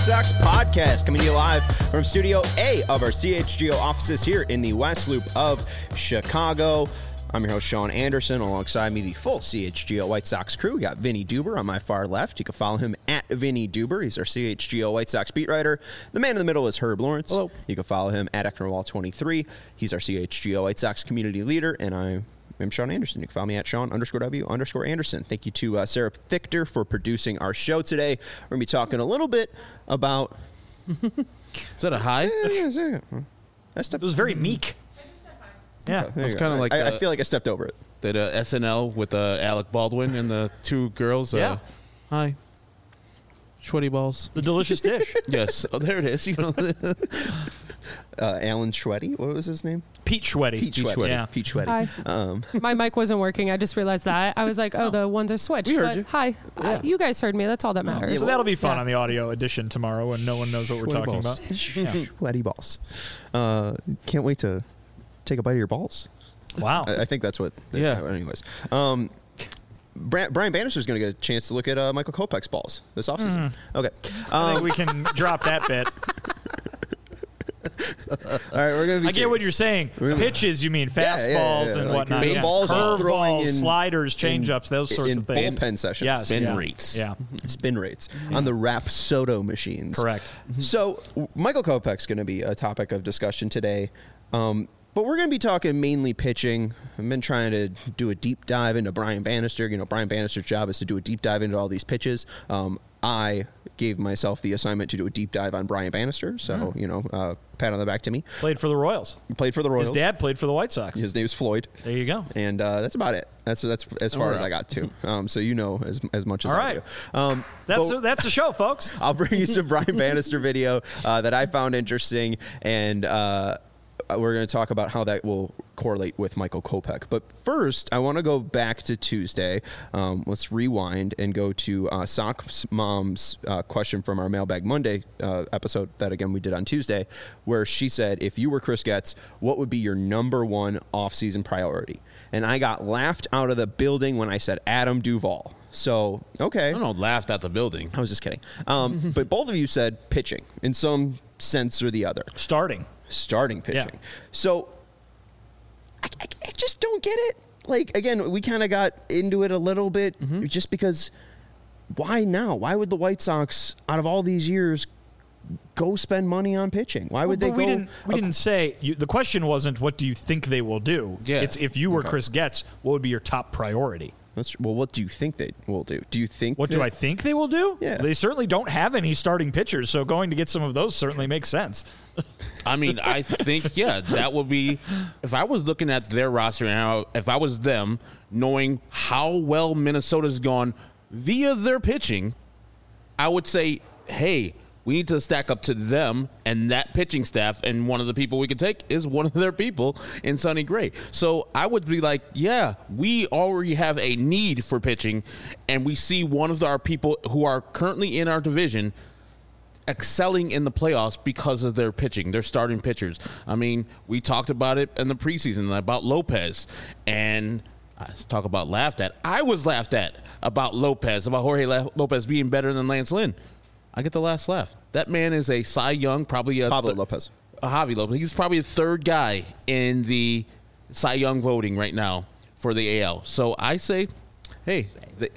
Sox podcast, coming to you live from Studio A of our CHGO offices here in the West Loop of Chicago. I'm your host, Sean Anderson. Alongside me, the full CHGO White Sox crew. We got Vinny Duber on my far left. You can follow him at Vinny Duber. He's our CHGO White Sox beat writer. The man in the middle is Herb Lawrence. Hello. You can follow him at Ecknerwall23. He's our CHGO White Sox community leader, and I'm Sean Anderson. You can follow me at Sean_W_Anderson. Thank you to Sarah Fichter for producing our show today. We're going to be talking a little bit about... Is that a high? Yeah. It was very meek. Yeah. It's kind of like I feel like I stepped over it. that SNL with Alec Baldwin and the two girls. Yeah. Hi. Sweaty balls. The delicious dish. Yes. Oh, there it is. You know. Alan Schwetty. What was his name? Pete Schwetty. Pete Schwetty. Yeah. Pete Schwetty. Hi. My mic wasn't working. I just realized that. I was like, oh, the ones are switched. We heard but you. Hi. Yeah. You guys heard me. That's all that matters. So that'll be fun Yeah. on the audio edition tomorrow when no one knows what we're Sweaty talking balls. about. Schwetty balls. Can't wait to take a bite of your balls. Wow. I think that's what. Yeah. Anyways. Brian Bannister's going to get a chance to look at Michael Kopech's balls this offseason. Okay. I think we can drop that bit. All right, we're going to be I get what you're saying. Pitches, you mean fastballs and like whatnot. the balls he's throwing Curveballs, in- sliders, changeups, those sorts in of things. bullpen sessions. Yes. Spin yeah. rates. Yeah. Spin rates on the Rapsodo machines. Correct. So Michael Kopech's going to be a topic of discussion today. But we're going to be talking mainly pitching. I've been trying to do a deep dive into Brian Bannister. You know, Brian Bannister's job is to do a deep dive into all these pitches. I gave myself the assignment to do a deep dive on Brian Bannister. So, pat on the back to me. Played for the Royals. He played for the Royals. His dad played for the White Sox. His name's Floyd. There you go. And that's about it. That's as far as I got to. So you know as much as All I right. do. That's the show, folks. I'll bring you some Brian Bannister video that I found interesting, and we're going to talk about how that will correlate with Michael Kopech. But first, I want to go back to Tuesday. Let's rewind and go to Sox Mom's question from our Mailbag Monday episode that, again, we did on Tuesday, where she said, if you were Chris Getz, what would be your number one offseason priority? And I got laughed out of the building when I said Adam Duvall. So, okay. I don't know. Laughed at the building. I was just kidding. But both of you said pitching in some sense or the other. Starting Pitching. Yeah. So I just don't get it. Like, again, we kind of got into it a little bit just because why now? Why would the White Sox, out of all these years, go spend money on pitching? Why would they go? We didn't say the question wasn't what do you think they will do. Yeah. It's if you were Chris Getz, what would be your top priority? Well, what do you think they will do? Do you think? What do I think they will do? Yeah. They certainly don't have any starting pitchers, so going to get some of those certainly makes sense. I mean, I think, yeah, that would be, if I was looking at their roster and if I was them, knowing how well Minnesota's gone via their pitching, I would say, hey, we need to stack up to them and that pitching staff, and one of the people we could take is one of their people in Sonny Gray. So I would be like, yeah, we already have a need for pitching, and we see one of our people who are currently in our division excelling in the playoffs because of their pitching, their starting pitchers. I mean, we talked about it in the preseason about Lopez, and I talk about laughed at. I was laughed at about Lopez, about Jorge Lopez being better than Lance Lynn. I get the last laugh. That man is a Cy Young, probably a Pablo Lopez. A Javi Lopez. He's probably the third guy in the Cy Young voting right now for the AL. So I say, hey,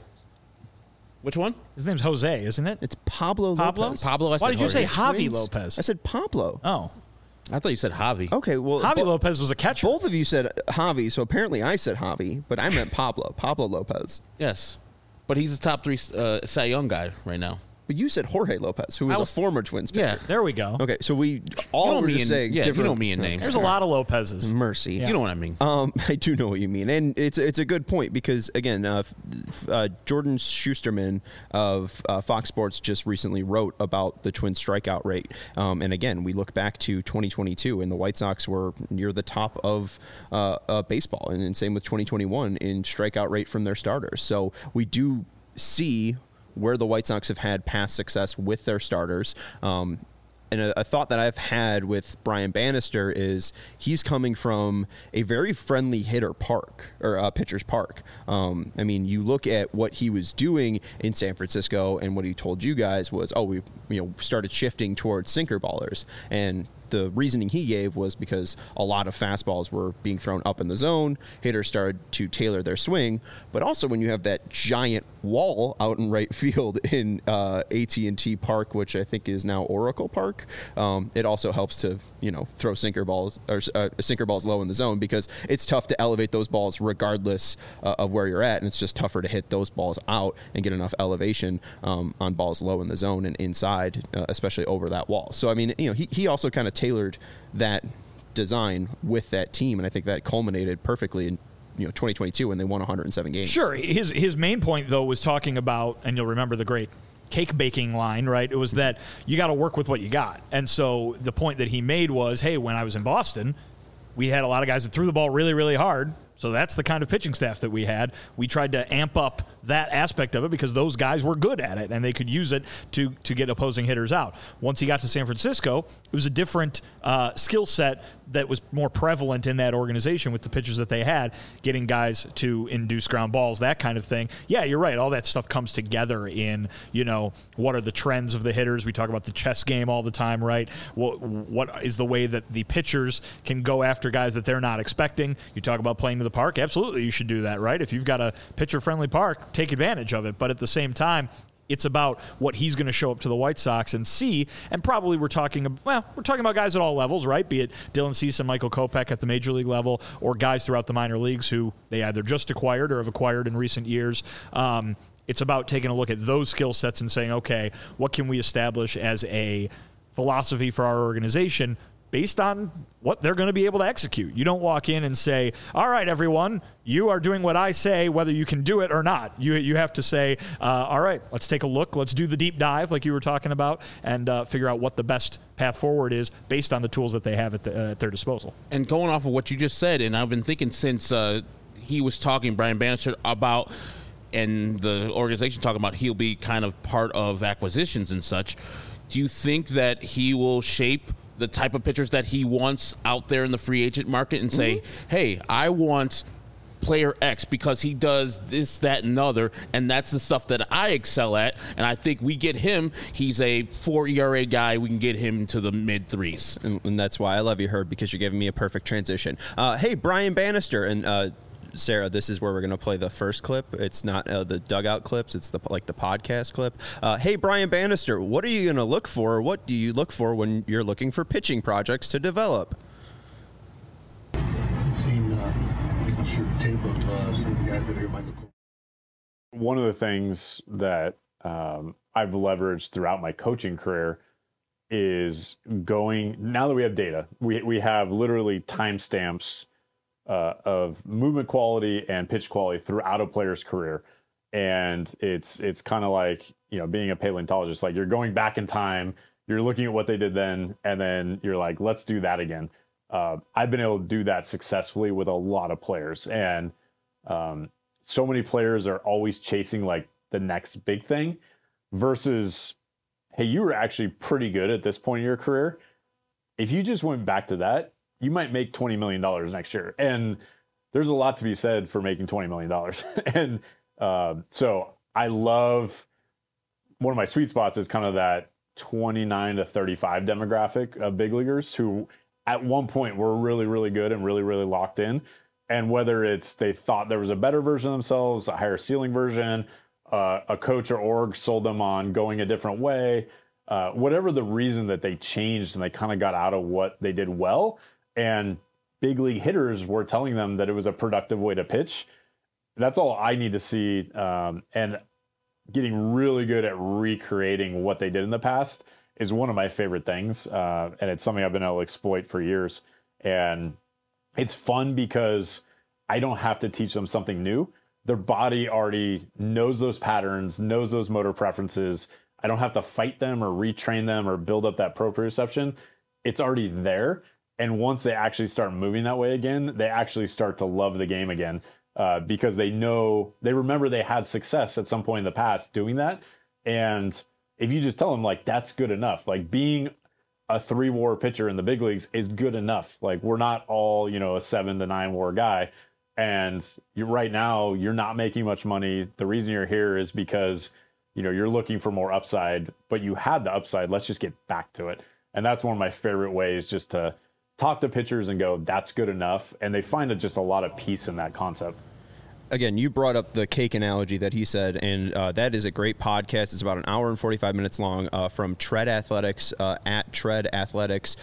which one? His name's Jose, isn't it? It's Pablo Lopez. Pablo. I Why said did you say Jorge. Javi Lopez? I said Pablo. Oh, I thought you said Javi. Okay, well, Javi Lopez was a catcher. both of you said Javi, so apparently I said Javi, but I meant Pablo Lopez. Yes, but he's the top three Cy Young guy right now. But you said Jorge Lopez, who was a former Twins pitcher. Yeah. There we go. Okay, so we all were just saying different. you know me in names. There's a lot of Lopez's. Mercy. Yeah. You know what I mean. I do know what you mean, and it's a good point because again, Jordan Schusterman of Fox Sports just recently wrote about the Twins strikeout rate, and again, we look back to 2022, and the White Sox were near the top of baseball, and same with 2021 in strikeout rate from their starters. So we do see where the White Sox have had past success with their starters. and a thought that I've had with Brian Bannister is he's coming from a very friendly hitter park or pitcher's park. I mean, you look at what he was doing in San Francisco, and what he told you guys was, we started shifting towards sinker ballers, and the reasoning he gave was because a lot of fastballs were being thrown up in the zone. Hitters started to tailor their swing, but also when you have that giant wall out in right field in AT&T Park, which I think is now Oracle Park, it also helps to throw sinker balls low in the zone, because it's tough to elevate those balls regardless of where you're at, and it's just tougher to hit those balls out and get enough elevation on balls low in the zone and inside, especially over that wall. So I mean, he also kind of tailored that design with that team, and I think that culminated perfectly in 2022 when they won 107 games. Sure. His main point, though, was talking about, and you'll remember the great cake baking line, right? It was that you got to work with what you got. And so the point that he made was, hey, when I was in Boston, we had a lot of guys that threw the ball really, really hard. So that's the kind of pitching staff that we had. We tried to amp up that aspect of it because those guys were good at it and they could use it to get opposing hitters out. Once he got to San Francisco, it was a different skill set that was more prevalent in that organization with the pitchers that they had, getting guys to induce ground balls, that kind of thing. Yeah, you're right. All that stuff comes together in, what are the trends of the hitters? We talk about the chess game all the time, right? What is the way that the pitchers can go after guys that they're not expecting? You talk about playing to the park. Absolutely, you should do that, right? If you've got a pitcher-friendly park, take advantage of it. But at the same time, it's about what he's going to show up to the White Sox and see. And probably we're talking about guys at all levels, right? Be it Dylan Cease and Michael Kopech at the major league level, or guys throughout the minor leagues who they either just acquired or have acquired in recent years. It's about taking a look at those skill sets and saying, okay, what can we establish as a philosophy for our organization based on what they're going to be able to execute. You don't walk in and say, all right, everyone, you are doing what I say, whether you can do it or not. You have to say, all right, let's take a look. Let's do the deep dive like you were talking about and figure out what the best path forward is based on the tools that they have at their disposal. And going off of what you just said, and I've been thinking since he was talking, Brian Bannister, about, and the organization talking about he'll be kind of part of acquisitions and such, do you think that he will shape the type of pitchers that he wants out there in the free agent market and say, hey, I want player X because he does this, that, and the other, and that's the stuff that I excel at, and I think we get him. He's a 4 ERA guy. We can get him to the mid-threes. And that's why I love you, Herb, because you're giving me a perfect transition. Hey, Brian Bannister, and Sarah, this is where we're going to play the first clip. It's not the dugout clips. It's the podcast clip. Hey, Brian Bannister, what are you going to look for? What do you look for when you're looking for pitching projects to develop? I've seen tape of some of the guys that are Michael. One of the things that I've leveraged throughout my coaching career is going, now that we have data, we have literally timestamps of movement quality and pitch quality throughout a player's career. And it's kind of like, being a paleontologist, like you're going back in time, you're looking at what they did then, and then you're like, let's do that again. I've been able to do that successfully with a lot of players. And so many players are always chasing like the next big thing versus, hey, you were actually pretty good at this point in your career. If you just went back to that, you might make $20 million next year. And there's a lot to be said for making $20 million. And so I love, one of my sweet spots is kind of that 29 to 35 demographic of big leaguers who at one point were really, really good and really, really locked in. And whether it's they thought there was a better version of themselves, a higher ceiling version, a coach or org sold them on going a different way, whatever the reason that they changed and they kind of got out of what they did well, and big league hitters were telling them that it was a productive way to pitch. That's all I need to see. And getting really good at recreating what they did in the past is one of my favorite things. And it's something I've been able to exploit for years. And it's fun because I don't have to teach them something new. Their body already knows those patterns, knows those motor preferences. I don't have to fight them or retrain them or build up that proprioception. It's already there. And once they actually start moving that way again, they actually start to love the game again because they remember they had success at some point in the past doing that. And if you just tell them like, that's good enough, like being a 3-WAR pitcher in the big leagues is good enough. Like, we're not all, a 7 to 9 WAR guy. And right now, you're not making much money. The reason you're here is because, you're looking for more upside, but you had the upside. Let's just get back to it. And that's one of my favorite ways, just to talk to pitchers and go, that's good enough. And they find just a lot of peace in that concept. Again, you brought up the cake analogy that he said, and that is a great podcast. It's about an hour and 45 minutes long from Tread Athletics, at Tread Athletics,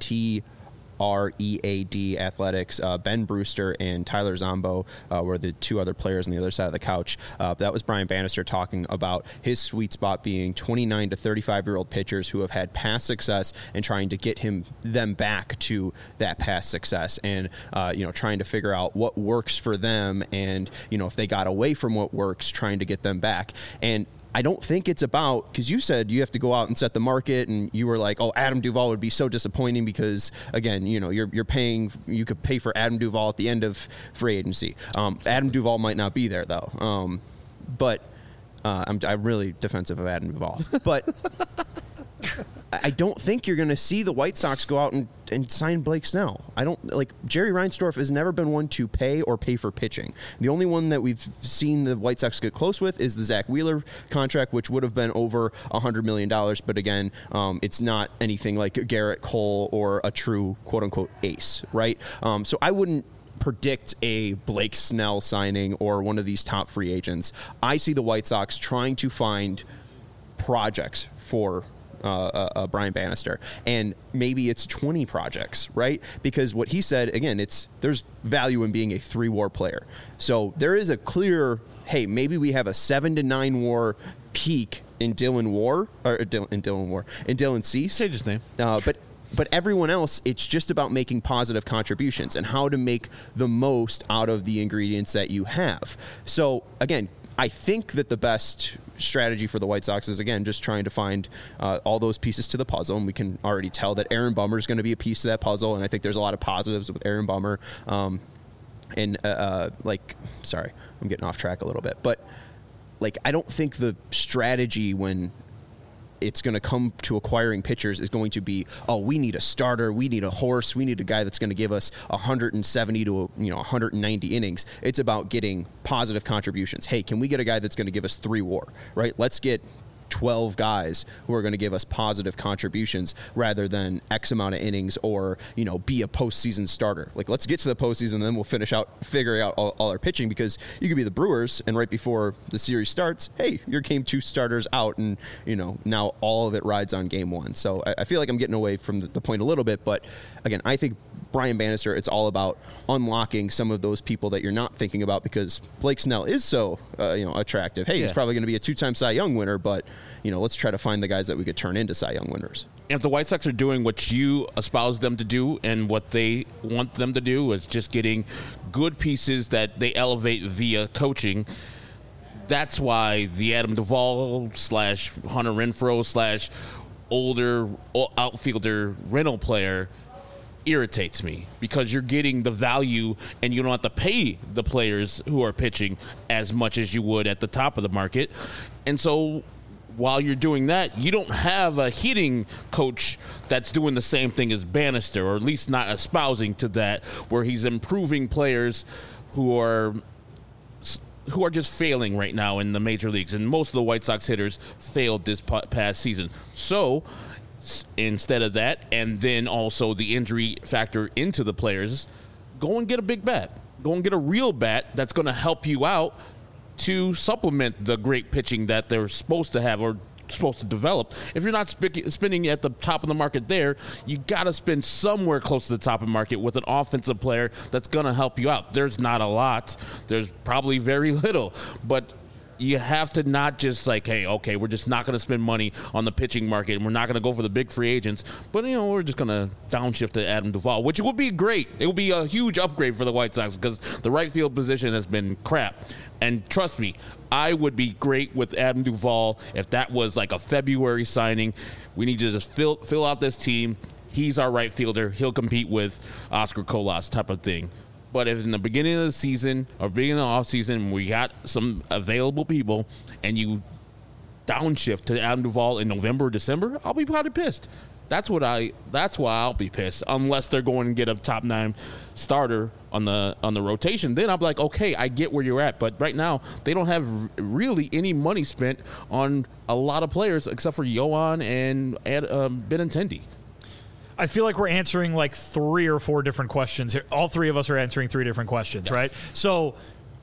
TREAD Athletics. Ben Brewster and Tyler Zombo were the two other players on the other side of the couch. That was Brian Bannister talking about his sweet spot being 29 to 35-year-old pitchers who have had past success and trying to get them back to that past success, and trying to figure out what works for them, and if they got away from what works, trying to get them back. And I don't think it's about, because you said you have to go out and set the market, and you were like, oh, Adam Duvall would be so disappointing because, again, you're paying, you could pay for Adam Duvall at the end of free agency. Adam Duvall might not be there, though. But I'm really defensive of Adam Duvall. But I don't think you're going to see the White Sox go out and sign Blake Snell. I don't Jerry Reinsdorf has never been one to pay for pitching. The only one that we've seen the White Sox get close with is the Zach Wheeler contract, which would have been over $100 million. But again, it's not anything like Garrett Cole or a true quote unquote ace, right? So I wouldn't predict a Blake Snell signing or one of these top free agents. I see the White Sox trying to find projects for Brian Bannister, and maybe it's 20 projects, right? Because what he said, again, there's value in being a 3-WAR player. So there is a clear, hey, maybe we have a 7 to 9 WAR peak in Dylan Cease. Change his name. But everyone else, it's just about making positive contributions and how to make the most out of the ingredients that you have. So again, I think that the best strategy for the White Sox is, again, just trying to find all those pieces to the puzzle. And we can already tell that Aaron Bummer is going to be a piece of that puzzle. And I think there's a lot of positives with Aaron Bummer. Sorry, I'm getting off track a little bit. But, I don't think the strategy when it's going to come to acquiring pitchers is going to be, oh, we need a starter, we need a horse, we need a guy that's going to give us 170 to 190 innings. It's about getting positive contributions. Hey, can we get a guy that's going to give us 3 WAR, right? Let's get 12 guys who are going to give us positive contributions rather than X amount of innings or, be a postseason starter. Let's get to the postseason and then we'll figuring out all our pitching, because you could be the Brewers and right before the series starts, hey, your game 2 starters out, and, now all of it rides on game 1. So I feel like I'm getting away from the point a little bit, but again, I think Brian Bannister, it's all about unlocking some of those people that you're not thinking about, because Blake Snell is so, attractive. Hey, he's probably going to be a 2-time Cy Young winner, but let's try to find the guys that we could turn into Cy Young winners. If the White Sox are doing what you espouse them to do and what they want them to do is just getting good pieces that they elevate via coaching, that's why the Adam Duvall / Hunter Renfroe / older outfielder rental player irritates me, because you're getting the value and you don't have to pay the players who are pitching as much as you would at the top of the market. And so while you're doing that, you don't have a hitting coach that's doing the same thing as Bannister, or at least not espousing to that, where he's improving players who are just failing right now in the major leagues. And most of the White Sox hitters failed this past season. So instead of that, and then also the injury factor into the players, go and get a big bat. Go and get a real bat that's going to help you out to supplement the great pitching that they're supposed to have or supposed to develop. If you're not spending at the top of the market there, you got to spend somewhere close to the top of the market with an offensive player that's going to help you out. There's not a lot. There's probably very little. But you have to not just hey, okay, we're just not going to spend money on the pitching market, and we're not going to go for the big free agents, but, we're just going to downshift to Adam Duvall, which would be great. It would be a huge upgrade for the White Sox, because the right field position has been crap. And trust me, I would be great with Adam Duvall if that was a February signing. We need to just fill out this team. He's our right fielder. He'll compete with Oscar Colas type of thing. But if in the beginning of the season or beginning of the offseason we got some available people and you downshift to Adam Duvall in November or December, I'll be probably pissed. That's why I'll be pissed, unless they're going to get a top 9 starter on the rotation. Then I'm like, okay, I get where you're at, but right now they don't have really any money spent on a lot of players except for Yohan and Benintendi. I feel like we're answering like 3 or 4 different questions here. All 3 of us are answering 3 different questions, right? So,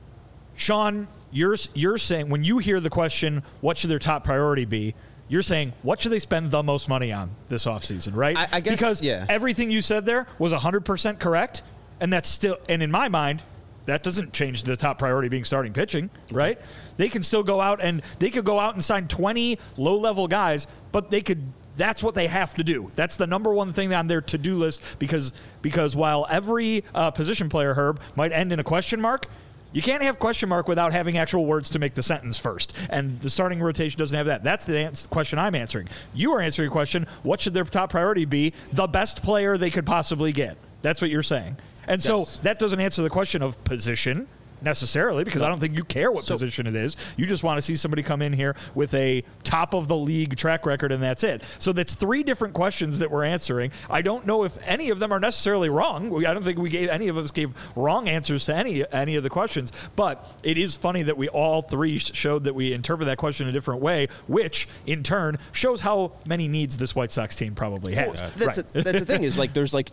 Sean, you're saying when you hear the question, what should their top priority be? You're saying, what should they spend the most money on this offseason, right? I guess, because everything you said there was 100% correct, and that's still, and in my mind, that doesn't change the top priority being starting pitching, right? They can still go out and sign 20 low-level guys, but that's what they have to do. That's the number one thing on their to-do list because while every position player, Herb, might end in a question mark, you can't have question mark without having actual words to make the sentence first. And the starting rotation doesn't have that. That's the question I'm answering. You are answering a question, what should their top priority be? The best player they could possibly get. That's what you're saying. And so that doesn't answer the question of position necessarily, because I don't think you care what position it is. You just want to see somebody come in here with a top-of-the-league track record, and that's it. So that's 3 different questions that we're answering. I don't know if any of them are necessarily wrong. I don't think any of us gave wrong answers to any of the questions, but it is funny that we all 3 showed that we interpret that question a different way, which, in turn, shows how many needs this White Sox team probably has. That's the thing is, like, there's, like,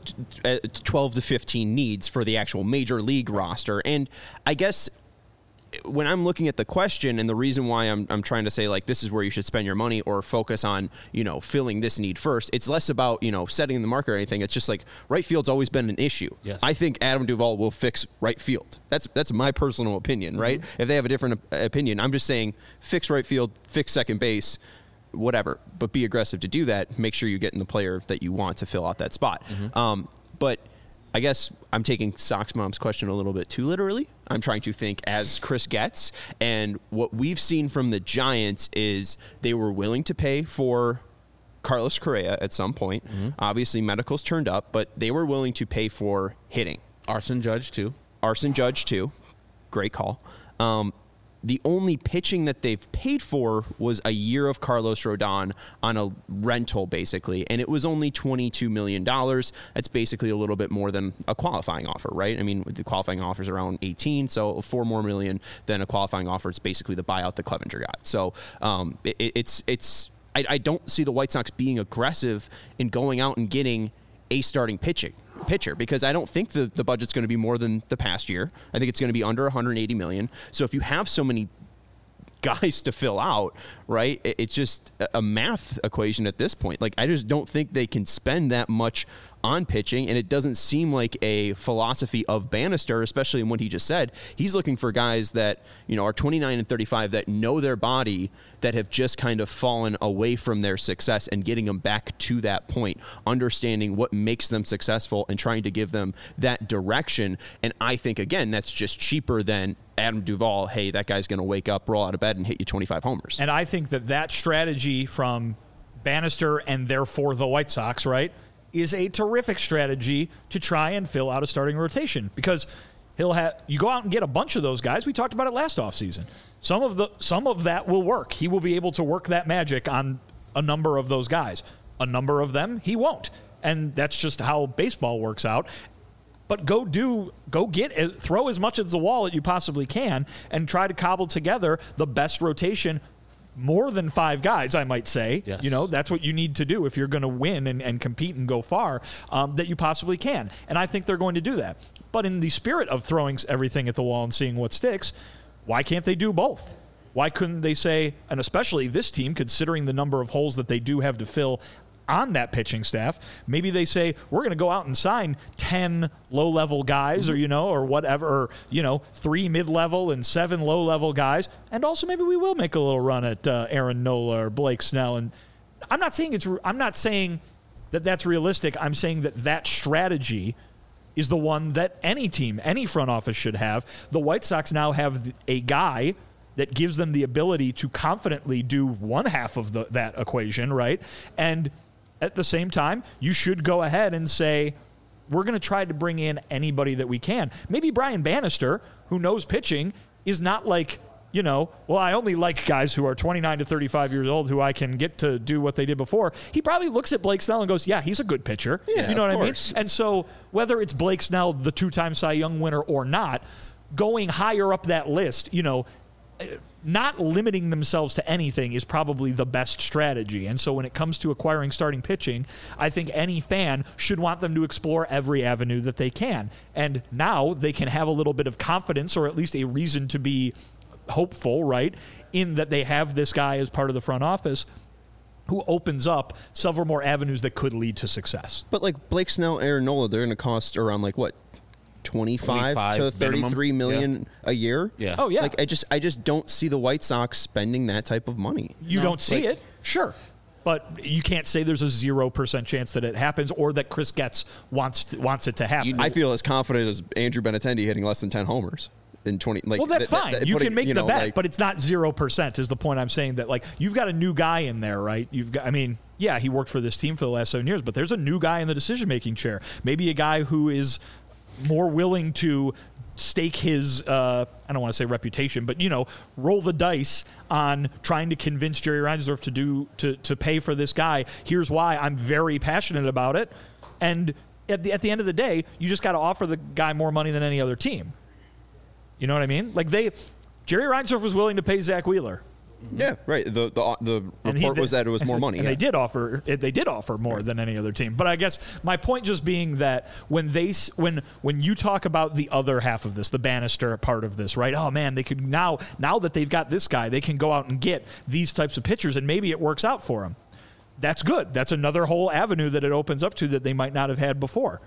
12 to 15 needs for the actual major league roster, and I guess when I'm looking at the question and the reason why I'm trying to say, like, this is where you should spend your money or focus on, filling this need first, it's less about, setting the market or anything. It's just like right field's always been an issue. Yes. I think Adam Duvall will fix right field. That's my personal opinion, right? Mm-hmm. If they have a different opinion, I'm just saying fix right field, fix second base, whatever, but be aggressive to do that. Make sure you get in the player that you want to fill out that spot. Mm-hmm. But I guess I'm taking Sox Mom's question a little bit too literally. I'm trying to think as Chris gets. And what we've seen from the Giants is they were willing to pay for Carlos Correa at some point. Mm-hmm. Obviously, medicals turned up, but they were willing to pay for hitting. Arson Judge, too. Great call. The only pitching that they've paid for was a year of Carlos Rodon on a rental, basically, and it was only $22 million. That's basically a little bit more than a qualifying offer, right? I mean, the qualifying offer is around 18, so $4 more million than a qualifying offer. It's basically the buyout that Clevenger got. So I don't see the White Sox being aggressive in going out and getting a starting pitcher because I don't think the budget's going to be more than the past year. I think it's going to be under $180 million. So if you have so many guys to fill out, right, it's just a math equation at this point. Like, I just don't think they can spend that much on pitching, and it doesn't seem like a philosophy of Bannister, especially in what he just said. He's looking for guys that, are 29 and 35 that know their body, that have just kind of fallen away from their success and getting them back to that point, understanding what makes them successful and trying to give them that direction. And I think, again, that's just cheaper than Adam Duvall. Hey, that guy's going to wake up, roll out of bed, and hit you 25 homers. And I think that strategy from Bannister and therefore the White Sox, right, is a terrific strategy to try and fill out a starting rotation because you go out and get a bunch of those guys. We talked about it last offseason. Some of that will work. He will be able to work that magic on a number of those guys. A number of them he won't. And that's just how baseball works out. But throw as much at the wall as you possibly can and try to cobble together the best rotation. More than 5 guys, I might say. Yes. That's what you need to do if you're going to win and compete and go far, that you possibly can. And I think they're going to do that. But in the spirit of throwing everything at the wall and seeing what sticks, why can't they do both? Why couldn't they say, and especially this team, considering the number of holes that they do have to fill on that pitching staff, maybe they say, we're going to go out and sign 10 low-level guys or whatever, or 3 mid-level and 7 low-level guys. And also maybe we will make a little run at Aaron Nola or Blake Snell. And I'm not saying that that's realistic. I'm saying that strategy is the one that any team, any front office should have. The White Sox now have a guy that gives them the ability to confidently do one half of that equation, right? And at the same time, you should go ahead and say, we're going to try to bring in anybody that we can. Maybe Brian Bannister, who knows pitching, is not like well, I only like guys who are 29 to 35 years old who I can get to do what they did before. He probably looks at Blake Snell and goes, yeah, he's a good pitcher. Yeah, you know of what course. I mean? And so whether it's Blake Snell, the 2-time Cy Young winner, or not, going higher up that list, not limiting themselves to anything is probably the best strategy. And so when it comes to acquiring starting pitching, I think any fan should want them to explore every avenue that they can. And now they can have a little bit of confidence, or at least a reason to be hopeful, right, in that they have this guy as part of the front office who opens up several more avenues that could lead to success. But like Blake Snell, Aaron Nola, they're going to cost around like what? 25 to 33 million a year. Yeah. Oh, yeah. Like I just don't see the White Sox spending that type of money. You don't see it, sure. But you can't say there's a 0% chance that it happens, or that Chris Getz wants it to happen. I feel as confident as Andrew Benintendi hitting less than 10 homers in 20. Like, well, that's fine. You can make the bet, like, but it's not 0%. Is the point I'm saying? That like you've got a new guy in there, right? Yeah, he worked for this team for the last 7 years, but there's a new guy in the decision-making chair. Maybe a guy who is more willing to stake his, I don't want to say reputation, but, roll the dice on trying to convince Jerry Reinsdorf to pay for this guy. Here's why I'm very passionate about it. And at the end of the day, you just got to offer the guy more money than any other team. You know what I mean? Like Jerry Reinsdorf was willing to pay Zach Wheeler. Yeah, right. The report was that it was more money. And yeah. they did offer more than any other team. But I guess my point just being that when you talk about the other half of this, the Bannister part of this, right? Oh man, they could now that they've got this guy, they can go out and get these types of pitchers, and maybe it works out for them. That's good. That's another whole avenue that it opens up to that they might not have had before.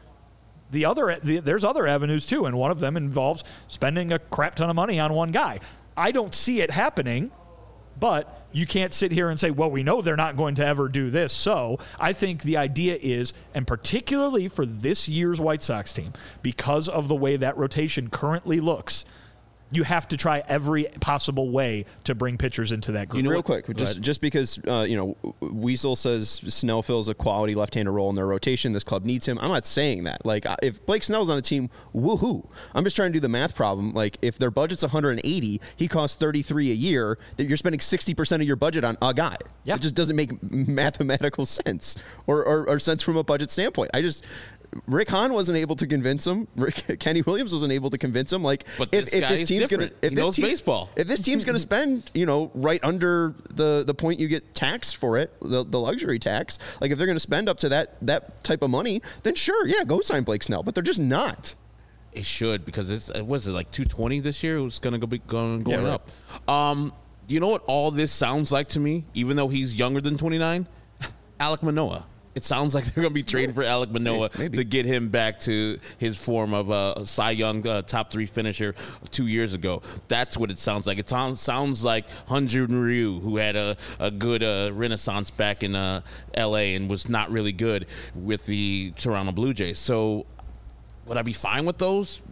There's other avenues too, and one of them involves spending a crap ton of money on one guy. I don't see it happening. But you can't sit here and say, well, we know they're not going to ever do this. So I think the idea is, and particularly for this year's White Sox team, because of the way that rotation currently looks, you have to try every possible way to bring pitchers into that group. Real quick, just because Weasel says Snell fills a quality left-handed role in their rotation, this club needs him. I'm not saying that. Like, if Blake Snell's on the team, woohoo! I'm just trying to do the math problem. Like, if their budget's 180, he costs 33 a year. That you're spending 60% of your budget on a guy. Yeah. It just doesn't make mathematical sense or sense from a budget standpoint. Rick Hahn wasn't able to convince him. Kenny Williams wasn't able to convince him. Like, but if this team's going to, if this team, baseball, if this team's going to spend, right under the point you get taxed for it, the luxury tax. Like, if they're going to spend up to that type of money, then sure, yeah, go sign Blake Snell. But they're just not. It should, because it was like 220 this year. It was going to be going right. up. You know what all this sounds like to me? Even though he's younger than 29, Alek Manoah. It sounds like they're going to be trading for Alek Manoah to get him back to his form of a Cy Young top 3 finisher 2 years ago. That's what it sounds like. It sounds like Hyun-Jin Ryu, who had a good renaissance back in L.A. and was not really good with the Toronto Blue Jays. So would I be fine with those?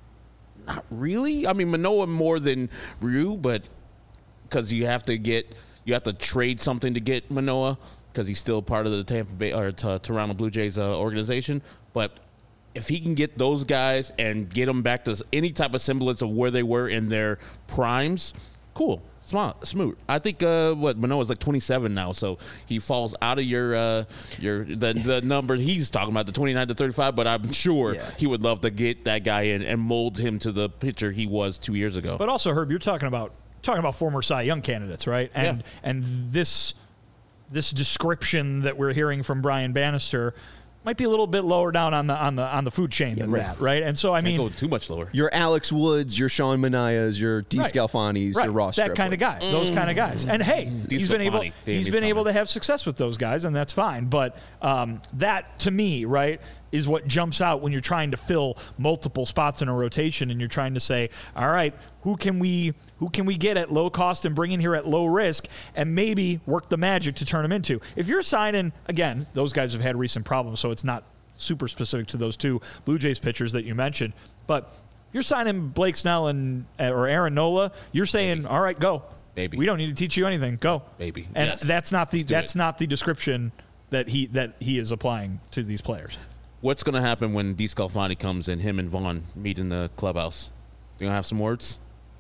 Not really. I mean, Manoah more than Ryu, but because you have to trade something to get Manoah, because he's still part of the Tampa Bay or Toronto Blue Jays organization. But if he can get those guys and get them back to any type of semblance of where they were in their primes, cool, smooth. I think Manoah's like 27 now, so he falls out of the number he's talking about, the 29 to 35. But I'm sure he would love to get that guy in and mold him to the pitcher he was 2 years ago. But also, Herb, you're talking about former Cy Young candidates, right? And this description that we're hearing from Brian Bannister might be a little bit lower down on the food chain than that, right? And so I mean, go too much lower. Your Alex Woods, your Sean Manayas, your DeScalfanis, your Ross that kind of guy, those kind of guys. And hey, he's been able to have success with those guys, and that's fine. But that to me, right, is what jumps out when you're trying to fill multiple spots in a rotation, and you're trying to say, all right, who can we get at low cost and bring in here at low risk, and maybe work the magic to turn them into. If you're signing, again, those guys have had recent problems, so it's not super specific to those two Blue Jays pitchers that you mentioned. But if you're signing Blake Snell or Aaron Nola, you're saying, all right, go. Baby. We don't need to teach you anything. Go. Baby. And yes. that's not the description that he is applying to these players. What's going to happen when DeScalfani comes and him and Vaughn meet in the clubhouse? You going to have some words?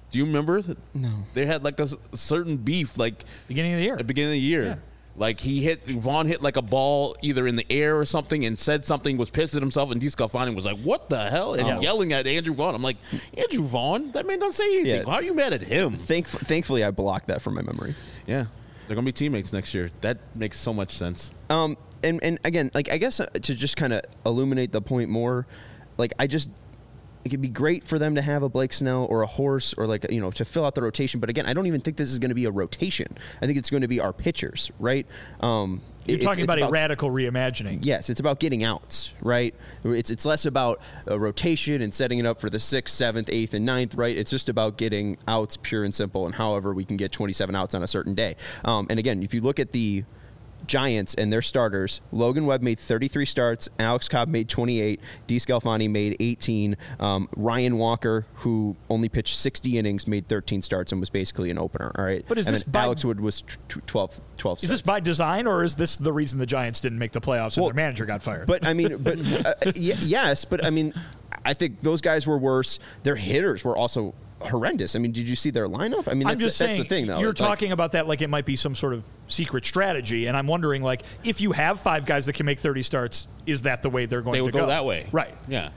Do you remember? No. They had like a certain beef, like Beginning of the year. at the beginning of the year. Yeah. Like Vaughn hit like a ball either in the air or something and said something, was pissed at himself, and DeSclafani was like, "What the hell?" and yelling at Andrew Vaughn. I'm like, Andrew Vaughn, that man don't say anything. Yeah. How are you mad at him? Thankfully, I blocked that from my memory. Yeah, they're gonna be teammates next year. That makes so much sense. And again, like I guess to just kind of illuminate the point more, like it could be great for them to have a Blake Snell or a Horse or like, you know, to fill out the rotation. But again, I don't even think this is going to be a rotation. I think it's going to be our pitchers, right? You're talking about a radical reimagining. Yes, it's about getting outs, right? It's less about a rotation and setting it up for the 6th, 7th, 8th, and 9th, right? It's just about getting outs, pure and simple, and however we can get 27 outs on a certain day. And again, if you look at the Giants and their starters, Logan Webb made 33 starts, Alex Cobb made 28, DeSclafani made 18, Ryan Walker, who only pitched 60 innings, made 13 starts and was basically an opener, all right? But is and this then Alex Wood was 12 starts. Is this by design, or is this the reason the Giants didn't make the playoffs and their manager got fired? But I mean, yes, but I mean, I think those guys were worse. Their hitters were also horrendous. I mean, did you see their lineup? I mean, that's the thing, though. You're talking about that like it might be some sort of secret strategy, and I'm wondering, like, if you have 5 guys that can make 30 starts, is that the way they're going to go? They would go that way. Right. Yeah.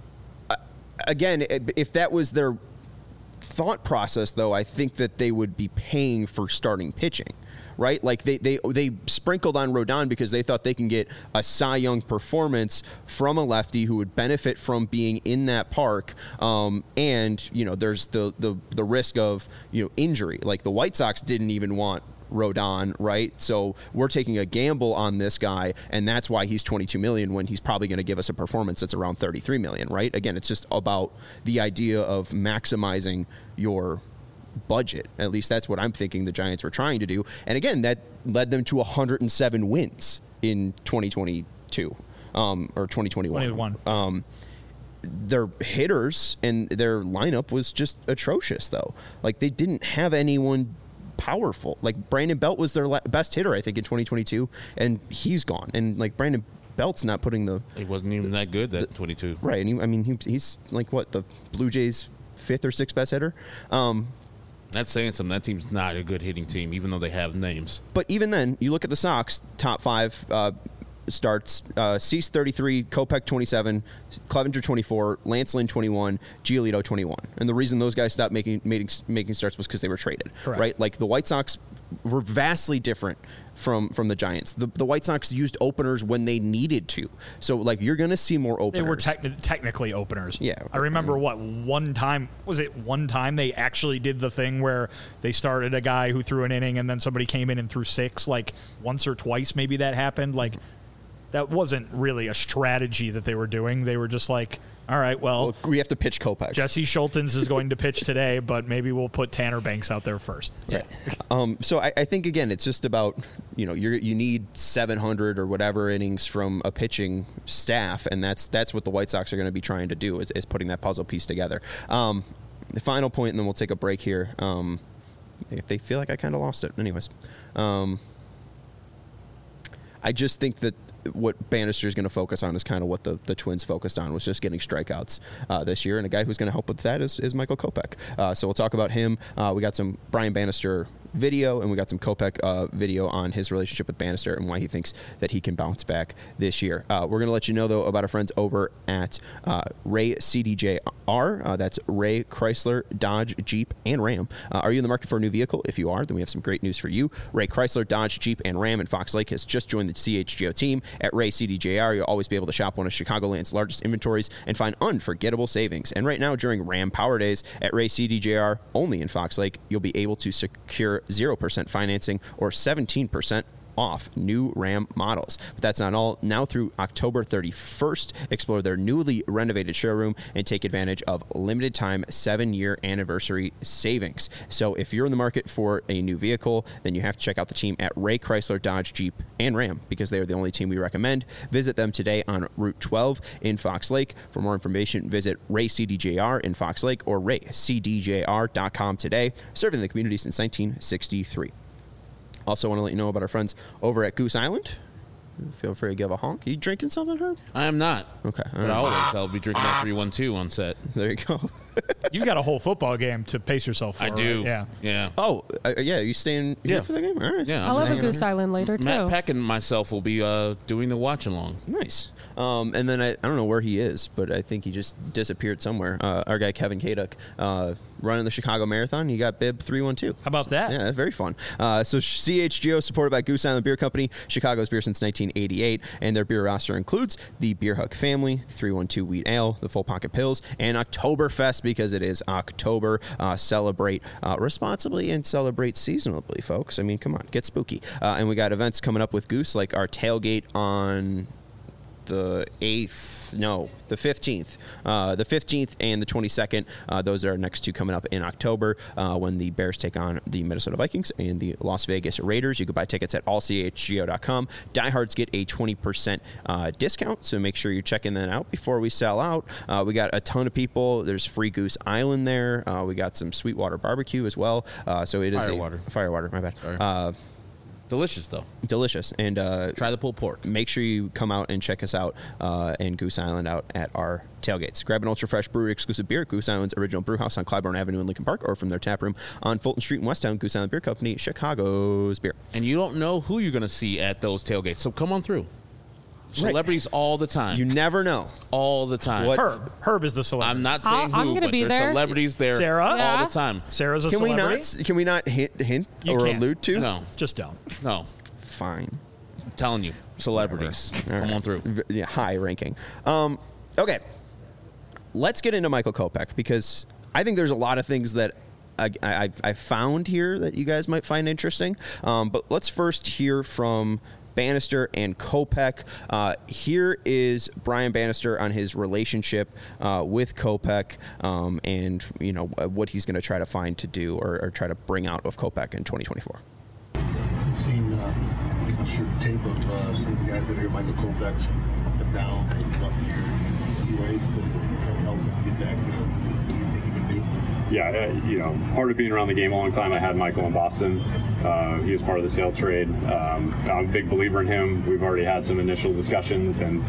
Again, if that was their thought process, though, I think that they would be paying for starting pitching. Right, like they sprinkled on Rodon because they thought they can get a Cy Young performance from a lefty who would benefit from being in that park, and you know there's the risk of injury. Like the White Sox didn't even want Rodon, right? So we're taking a gamble on this guy, and that's why he's $22 million when he's probably going to give us a performance that's around $33 million, right? Again, it's just about the idea of maximizing your budget. At least that's what I'm thinking the Giants were trying to do. And again, that led them to 107 wins in 2022 or 2021. Their hitters and their lineup was just atrocious, though. Like they didn't have anyone powerful. Like Brandon Belt was their best hitter, I think, in 2022, and he's gone. And like Brandon Belt's not putting He wasn't even that good that 22. Right. And he's like what, the Blue Jays' 5th or 6th best hitter. That's saying something. That team's not a good hitting team, even though they have names. But even then, you look at the Sox top 5 starts: Cease 33, Kopech 27, Clevenger 24, Lance Lynn 21, Giolito 21. And the reason those guys stopped making starts was because they were traded. Correct. Right? Like the White Sox were vastly different from the Giants. The White Sox used openers when they needed to. So like you're going to see more openers. They were technically openers. Yeah. I remember one time they actually did the thing where they started a guy who threw an inning and then somebody came in and threw 6, like once or twice maybe that happened. Like that wasn't really a strategy that they were doing. They were just like, all right, well we have to pitch Kopech. Jesse Schultens is going to pitch today, but maybe we'll put Tanner Banks out there first. Yeah. So I think, again, it's just about, you need 700 or whatever innings from a pitching staff, and that's what the White Sox are going to be trying to do is putting that puzzle piece together. The final point, and then we'll take a break here. If they feel like I kind of lost it. Anyways. I just think that what Bannister is going to focus on is kind of what the Twins focused on, was just getting strikeouts this year. And a guy who's going to help with that is Michael Kopech. So we'll talk about him. We got some Brian Bannister video, and we got some Kopech video on his relationship with Bannister and why he thinks that he can bounce back this year. We're going to let you know, though, about our friends over at Ray CDJR. That's Ray Chrysler, Dodge, Jeep, and Ram. Are you in the market for a new vehicle? If you are, then we have some great news for you. Ray Chrysler, Dodge, Jeep, and Ram in Fox Lake has just joined the CHGO team. At Ray CDJR, you'll always be able to shop one of Chicagoland's largest inventories and find unforgettable savings. And right now, during Ram Power Days at Ray CDJR, only in Fox Lake, you'll be able to secure 0% financing or 17% off new Ram models. But that's not all. Now through October 31st, explore their newly renovated showroom and take advantage of limited time 7-year anniversary savings. So if you're in the market for a new vehicle, then you have to check out the team at Ray Chrysler, Dodge, Jeep, and Ram, because they are the only team we recommend. Visit them today on Route 12 in Fox Lake. For more information, visit Ray CDJR in Fox Lake or raycdjr.com today. Serving the community since 1963. Also want to let you know about our friends over at Goose Island. Feel free to give a honk. You drinking something, Herb? I am not. Okay. But I'll be drinking that 312 on set. There you go. You've got a whole football game to pace yourself for. I do. Right? Yeah. Yeah. Oh, yeah. You staying here for the game? All right. Yeah. I'll have a Goose Island later, too. Matt Peck and myself will be doing the watch along. Nice. And then I don't know where he is, but I think he just disappeared somewhere. Our guy Kevin Kaduk running the Chicago Marathon. He got bib 312. How about that? Yeah, that's very fun. So CHGO, supported by Goose Island Beer Company, Chicago's beer since 1988, and their beer roster includes the Beer Hug family, 312 Wheat Ale, the Full Pocket Pills, and Oktoberfest, because it is October. Celebrate responsibly and celebrate seasonably, folks. I mean, come on, get spooky. And we got events coming up with Goose, like our tailgate on the 15th. The 15th and the 22nd. Those are our next two coming up in October when the Bears take on the Minnesota Vikings and the Las Vegas Raiders. You can buy tickets at allchgo.com. Diehards get a 20% discount, so make sure you're checking that out before we sell out. We got a ton of people. There's free Goose Island there. We got some Sweetwater barbecue as well. So it is Firewater, my bad. Delicious, though. Delicious. And try the pulled pork. Make sure you come out and check us out and Goose Island out at our tailgates. Grab an ultra fresh brewery exclusive beer at Goose Island's original brew house on Clybourne Avenue in Lincoln Park, or from their tap room on Fulton Street in Westtown. Goose Island Beer Company, Chicago's beer. And you don't know who you're going to see at those tailgates, so come on through. Celebrities all the time. You never know. All the time. What? Herb is the celebrity. I'm not saying I'm who, gonna but be there's there. celebrities there Sarah? all Yeah. the time. Sarah's a Can celebrity. we not hint You or can't. allude to? No, Just don't. no. Fine. I'm telling you, celebrities. Come on through. Yeah, high ranking. Okay. Let's get into Michael Kopech, because I think there's a lot of things that I found here that you guys might find interesting. But let's first hear from Bannister and Kopech. Here is Brian Bannister on his relationship with Kopech, and what he's going to try to find to do or try to bring out of Kopech in 2024. You've seen, I'm sure, tape of some of the guys that are Michael Kopech's up and down, rough year. Do you see ways to kind of help him get back to who you think he can be? Yeah, part of being around the game a long time, I had Michael in Boston. He was part of the sale trade. I'm a big believer in him. We've already had some initial discussions, and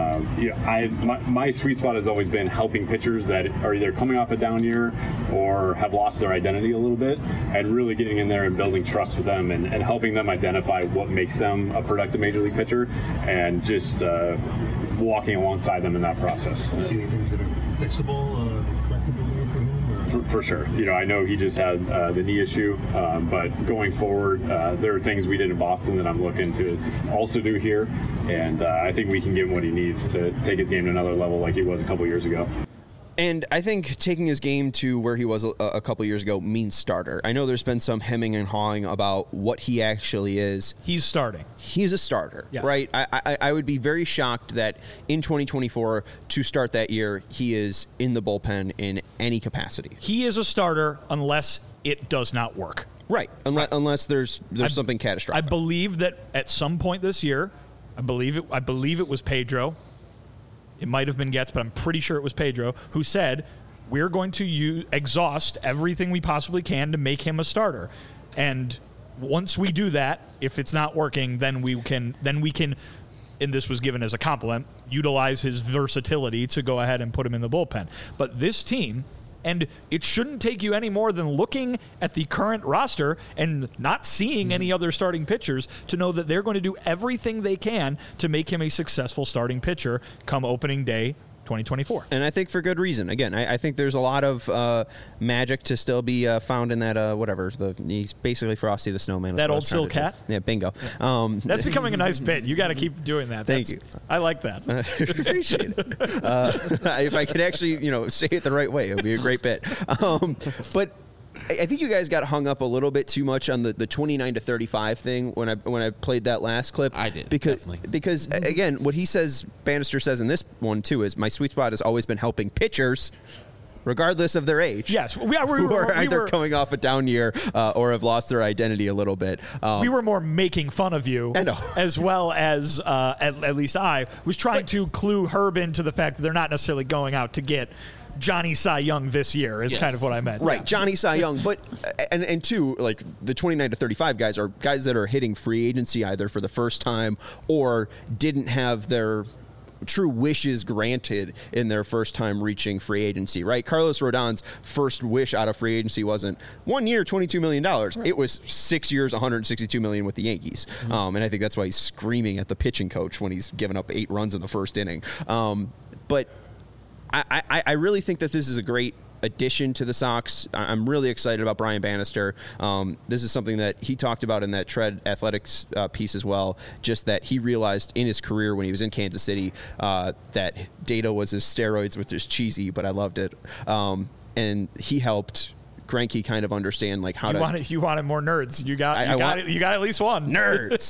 my sweet spot has always been helping pitchers that are either coming off a down year or have lost their identity a little bit, and really getting in there and building trust with them and helping them identify what makes them a productive major league pitcher, and just walking alongside them in that process. Do you see any things that are fixable, correctable there for him? For sure. I know he just had the knee issue, but going forward, there are things we did in Boston that I'm looking to also do here, and I think we can give him what he needs to take his game to another level like he was a couple years ago. And I think taking his game to where he was a couple years ago means starter. I know there's been some hemming and hawing about what he actually is. He's starting. He's a starter, yes. Right? I would be very shocked that in 2024, to start that year, he is in the bullpen in any capacity. He is a starter unless it does not work. Right. Unless there's something catastrophic. I believe that at some point this year, I believe it was Pedro. It might have been Getz, but I'm pretty sure it was Pedro who said, we're going to exhaust everything we possibly can to make him a starter. And once we do that, if it's not working, then we can, and this was given as a compliment, utilize his versatility to go ahead and put him in the bullpen. But this team, and it shouldn't take you any more than looking at the current roster and not seeing any other starting pitchers to know that they're going to do everything they can to make him a successful starting pitcher come opening day 2024. And I think for good reason. Again, I think there's a lot of magic to still be found in that, he's basically Frosty the Snowman. That old Sil Cat? Yeah, bingo. That's becoming a nice bit. You got to keep doing that. Thank you. I like that. Appreciate it. If I could actually, say it the right way, it would be a great bit. But I think you guys got hung up a little bit too much on the 29-35 thing when I played that last clip. I did, because again, what Bannister says in this one too is my sweet spot has always been helping pitchers, regardless of their age. Yes, who are either coming off a down year or have lost their identity a little bit. We were more making fun of you, I know. as well as at least I was trying to clue Herb into the fact that they're not necessarily going out to get Johnny Cy Young this year is kind of what I meant. Right, yeah. Johnny Cy Young. But, and two, like the 29-35 guys are guys that are hitting free agency either for the first time or didn't have their true wishes granted in their first time reaching free agency, right? Carlos Rodon's first wish out of free agency wasn't 1 year, $22 million. Right. It was 6 years, $162 million with the Yankees. And I think that's why he's screaming at the pitching coach when he's given up 8 runs in the first inning. But I really think that this is a great addition to the Sox. I'm really excited about Brian Bannister. This is something that he talked about in that Tread Athletics piece as well, just that he realized in his career when he was in Kansas City that data was his steroids, which is cheesy, but I loved it. And he helped Greinke kind of understand like how you wanted more nerds. You got at least one. Nerds.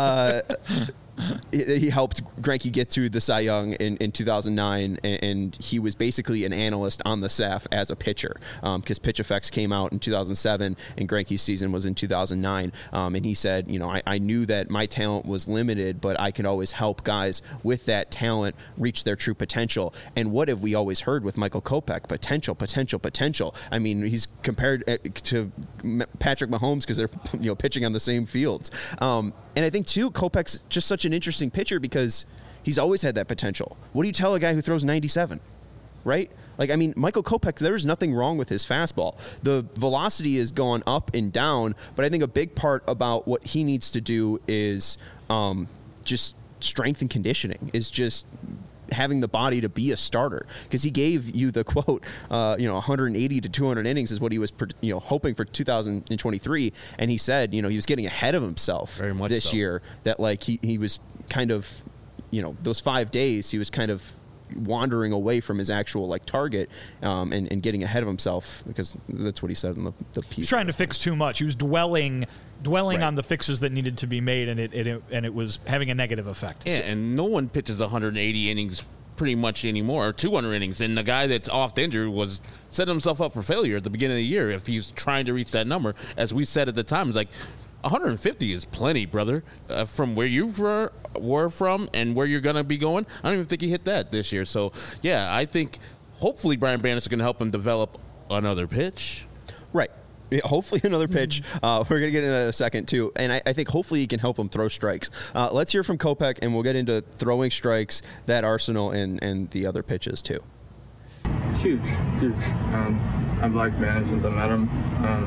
He helped Greinke get to the Cy Young in 2009, and he was basically an analyst on the staff as a pitcher because Pitch Effects came out in 2007 and Greinke's season was in 2009. And he said, I knew that my talent was limited, but I could always help guys with that talent reach their true potential. And what have we always heard with Michael Kopech? Potential, potential, potential. I mean, he's compared to Patrick Mahomes because they're pitching on the same fields. And I think, too, Kopech's just such an interesting pitcher because he's always had that potential. What do you tell a guy who throws 97, right? Like, I mean, Michael Kopech, there's nothing wrong with his fastball. The velocity is going up and down, but I think a big part about what he needs to do is just strength and conditioning, is just having the body to be a starter, because he gave you the quote, 180 to 200 innings is what he was, hoping for 2023. And he said, he was getting ahead of himself very much this year, that like he was kind of, those 5 days he was kind of wandering away from his actual like target and getting ahead of himself, because that's what he said in the piece. He's trying to fix too much. He was dwelling right on the fixes that needed to be made, and it was having a negative effect. Yeah, and no one pitches 180 innings pretty much anymore, or 200 innings. And the guy that's off injured was setting himself up for failure at the beginning of the year if he's trying to reach that number. As we said at the time, it's like 150 is plenty, brother. From where you were from and where you're going to be going, I don't even think he hit that this year. So, yeah, I think hopefully Brian Bannister can help him develop another pitch. Right. Yeah, hopefully another pitch. We're going to get into that in a second, too. And I think hopefully he can help him throw strikes. Let's hear from Kopech, and we'll get into throwing strikes, that arsenal, and the other pitches, too. Huge. I've liked Bannister since I met him.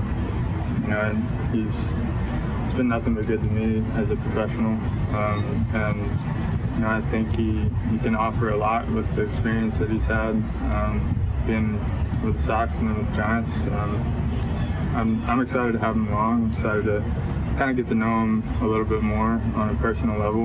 And it's been nothing but good to me as a professional. And I think he can offer a lot with the experience that he's had being with the Sox and then with the Giants. I'm excited to have him along. I'm excited to kind of get to know him a little bit more on a personal level,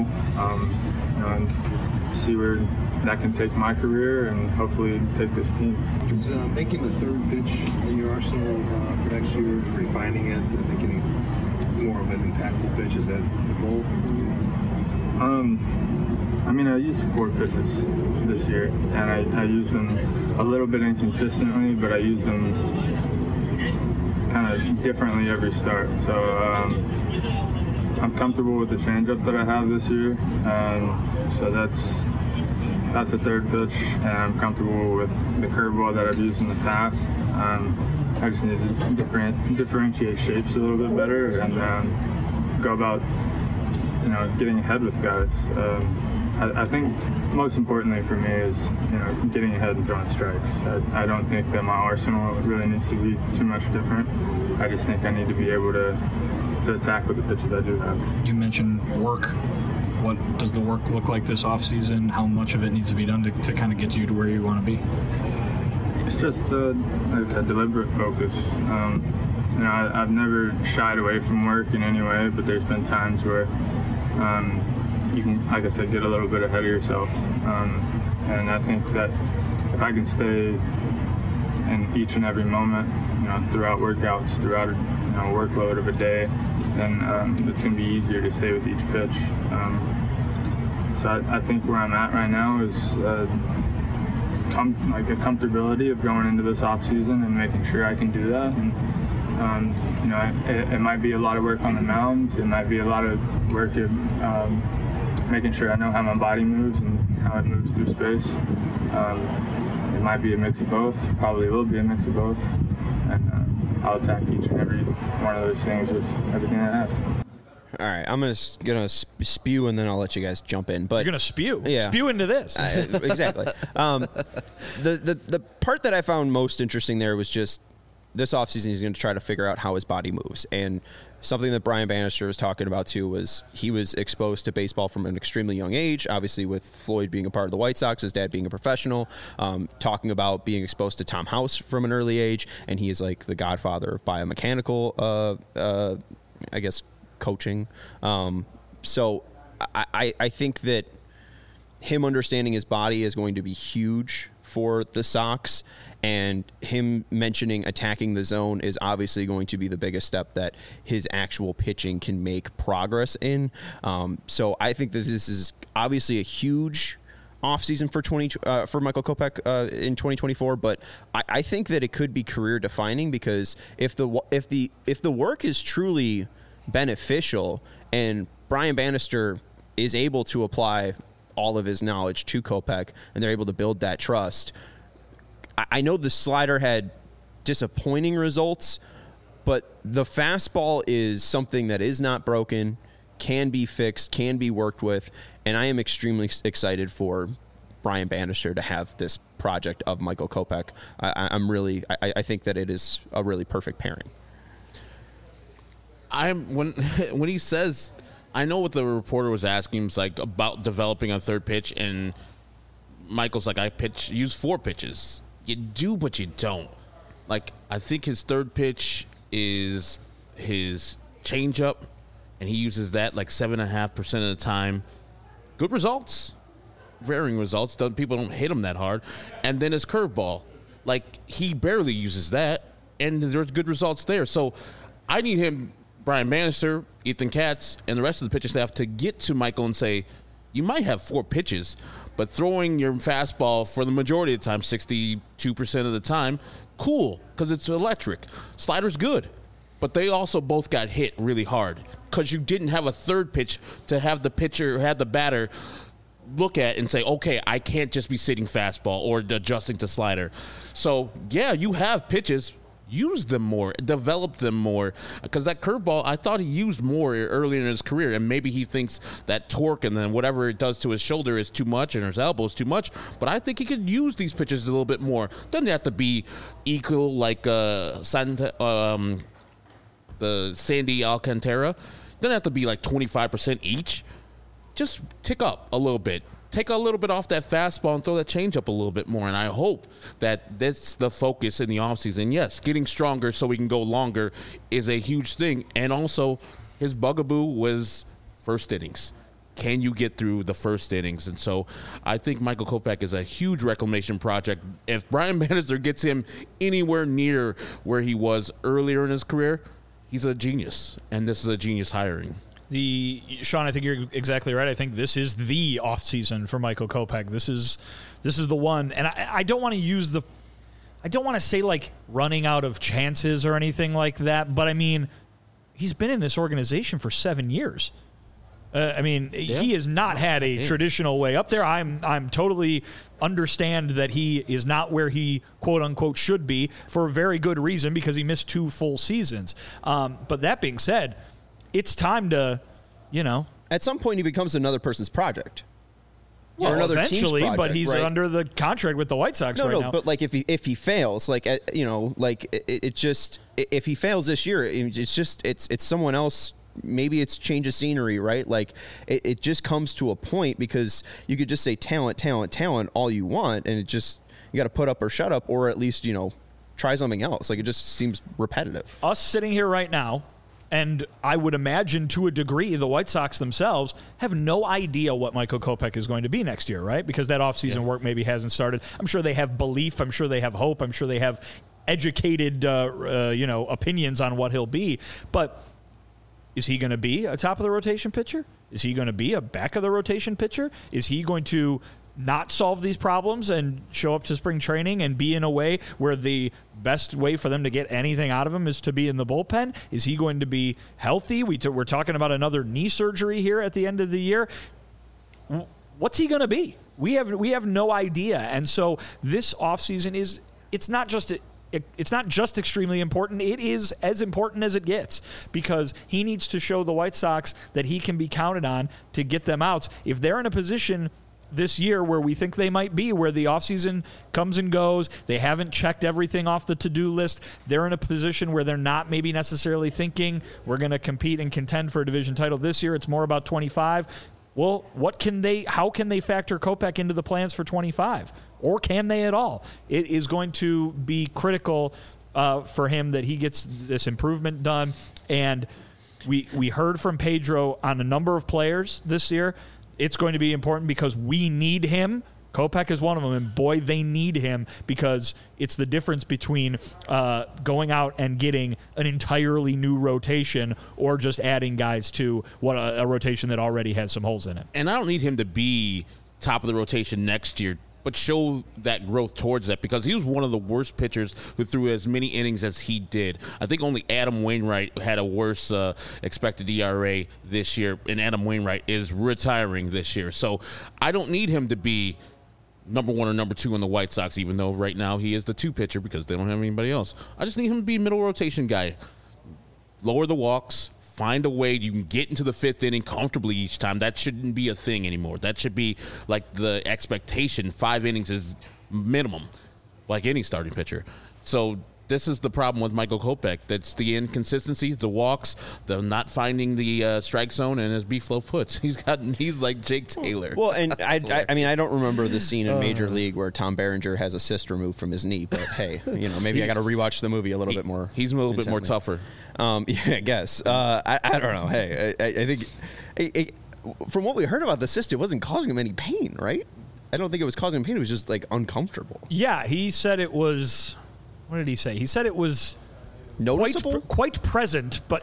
and see where that can take my career and hopefully take this team. Is making the third pitch in your arsenal for next year, refining it, making it more of an impactful pitch, is that the goal for you? I used 4 pitches this year, and I used them a little bit inconsistently, but I used them kind of differently every start. So I'm comfortable with the changeup that I have this year, so that's a third pitch, and I'm comfortable with the curveball that I've used in the past. I just need to differentiate shapes a little bit better and go about getting ahead with guys. I think most importantly for me is getting ahead and throwing strikes. I don't think that my arsenal really needs to be too much different. I just think I need to be able to attack with the pitches I do have. You mentioned work. What does the work look like this offseason? How much of it needs to be done to kind of get you to where you want to be? It's just a deliberate focus. I've never shied away from work in any way, but there's been times where you can, like I said, get a little bit ahead of yourself. And I think that if I can stay in each and every moment, throughout workouts, throughout a workload of a day, then it's going to be easier to stay with each pitch. So I think where I'm at right now is a comfortability of going into this off season and making sure I can do that. And it might be a lot of work on the mound. It might be a lot of work at making sure I know how my body moves and how it moves through space. It might be a mix of both. Probably will be a mix of both. And I'll attack each and every one of those things with everything I have. All right, I'm gonna spew and then I'll let you guys jump in. But You're gonna spew. Yeah. Spew into this. Exactly. The part that I found most interesting there was just this offseason he's going to try to figure out how his body moves. And something that Brian Bannister was talking about too was he was exposed to baseball from an extremely young age, obviously with Floyd being a part of the White Sox, his dad being a professional, talking about being exposed to Tom House from an early age, and he is like the godfather of biomechanical, I guess, coaching. So I think that him understanding his body is going to be huge for the Sox, and him mentioning attacking the zone is obviously going to be the biggest step that his actual pitching can make progress in. So I think that this is obviously a huge offseason for Michael Kopech in 2024, but I think that it could be career defining, because if the work is truly beneficial and Brian Bannister is able to apply all of his knowledge to Kopech and they're able to build that trust. I know the slider had disappointing results, but the fastball is something that is not broken, can be fixed, can be worked with, and I am extremely excited for Brian Bannister to have this project of Michael Kopech. I think that it is a really perfect pairing. When he says, I know what the reporter was asking him, like about developing a third pitch, and Michael's like, use 4 pitches. You do, but you don't. Like, I think his third pitch is his changeup, and he uses that like 7.5% of the time. Good results, varying results. People don't hit him that hard. And then his curveball, like he barely uses that, and there's good results there. So I need him, Brian Bannister, Ethan Katz, and the rest of the pitching staff to get to Michael and say, you might have 4 pitches, but throwing your fastball for the majority of the time, 62% of the time, cool, because it's electric. Slider's good, but they also both got hit really hard because you didn't have a third pitch to have the pitcher, have the batter look at and say, okay, I can't just be sitting fastball or adjusting to slider. So, yeah, you have pitches. Use them more, develop them more, because that curveball, I thought he used more earlier in his career, and maybe he thinks that torque and then whatever it does to his shoulder is too much and his elbow is too much, but I think he could use these pitches a little bit more. Doesn't have to be equal like the Sandy Alcantara. Doesn't have to be like 25% each. Just tick up a little bit. Take a little bit off that fastball and throw that changeup a little bit more. And I hope that that's the focus in the offseason. Yes, getting stronger so we can go longer is a huge thing. And also, his bugaboo was first innings. Can you get through the first innings? And so I think Michael Kopech is a huge reclamation project. If Brian Bannister gets him anywhere near where he was earlier in his career, he's a genius. And this is a genius hiring. Sean, I think you're exactly right. I think this is the offseason for Michael Kopech. This is the one, and I don't want to I don't want to say like running out of chances or anything like that, but I mean, he's been in this organization for 7 years. He has not had a traditional way up there. I'm totally understand that he is not where he quote unquote should be for a very good reason, because he missed 2 full seasons. But that being said, it's time to, at some point he becomes another person's project. Well, or another eventually, team's project, but he's right? Under the contract with the White Sox right now. But like if he fails, like if he fails this year, it's someone else. Maybe it's change of scenery, right? Like it just comes to a point, because you could just say talent all you want, and you got to put up or shut up, or at least try something else. Like it just seems repetitive. Us sitting here right now, and I would imagine to a degree the White Sox themselves have no idea what Michael Kopech is going to be next year, right? Because that offseason work maybe hasn't started. I'm sure they have belief. I'm sure they have hope. I'm sure they have educated, opinions on what he'll be. But is he going to be a top of the rotation pitcher? Is he going to be a back of the rotation pitcher? Is he going to not solve these problems and show up to spring training and be in a way where the best way for them to get anything out of him is to be in the bullpen? Is he going to be healthy? We're talking about another knee surgery here at the end of the year. What's he going to be? We have no idea. And so this offseason it's not just it's not just extremely important. It is as important as it gets because he needs to show the White Sox that he can be counted on to get them outs. If they're in a position this year where we think they might be, where the offseason comes and goes, they haven't checked everything off the to-do list, they're in a position where they're not maybe necessarily thinking we're going to compete and contend for a division title this year. It's more about 25. Well, how can they factor Kopech into the plans for 25? Or can they at all? It is going to be critical for him that he gets this improvement done. And we heard from Pedro on a number of players this year. It's going to be important because we need him. Kopech is one of them, and boy, they need him because it's the difference between going out and getting an entirely new rotation or just adding guys to a rotation that already has some holes in it. And I don't need him to be top of the rotation next year, but show that growth towards that because he was one of the worst pitchers who threw as many innings as he did. I think only Adam Wainwright had a worse expected ERA this year, and Adam Wainwright is retiring this year. So I don't need him to be number 1 or number 2 in the White Sox, even though right now he is the 2 pitcher because they don't have anybody else. I just need him to be a middle rotation guy. Lower the walks. Find a way you can get into the 5th inning comfortably each time. That shouldn't be a thing anymore. That should be like the expectation. 5 innings is minimum, like any starting pitcher. So this is the problem with Michael Kopech. That's the inconsistencies, the walks, the not finding the strike zone, and as B-Flow puts, he's like Jake Taylor. Well, and I mean, I don't remember the scene in Major League where Tom Berenger has a cyst removed from his knee, but hey, maybe I got to rewatch the movie a little bit more. He's a little bit more tougher. Yeah, I guess. I don't know. Hey, I think from what we heard about the cyst, it wasn't causing him any pain, right? I don't think it was causing him pain. It was just like uncomfortable. Yeah, he said it was. What did he say? He said it was noticeable, quite present, but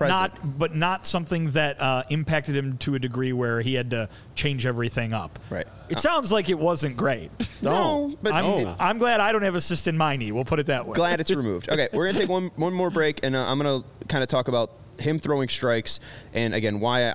not something that impacted him to a degree where he had to change everything up. Right. It sounds like it wasn't great. No, but I'm glad I don't have a cyst in my knee. We'll put it that way. Glad it's removed. Okay, we're gonna take one more break, and I'm gonna kind of talk about him throwing strikes, and again why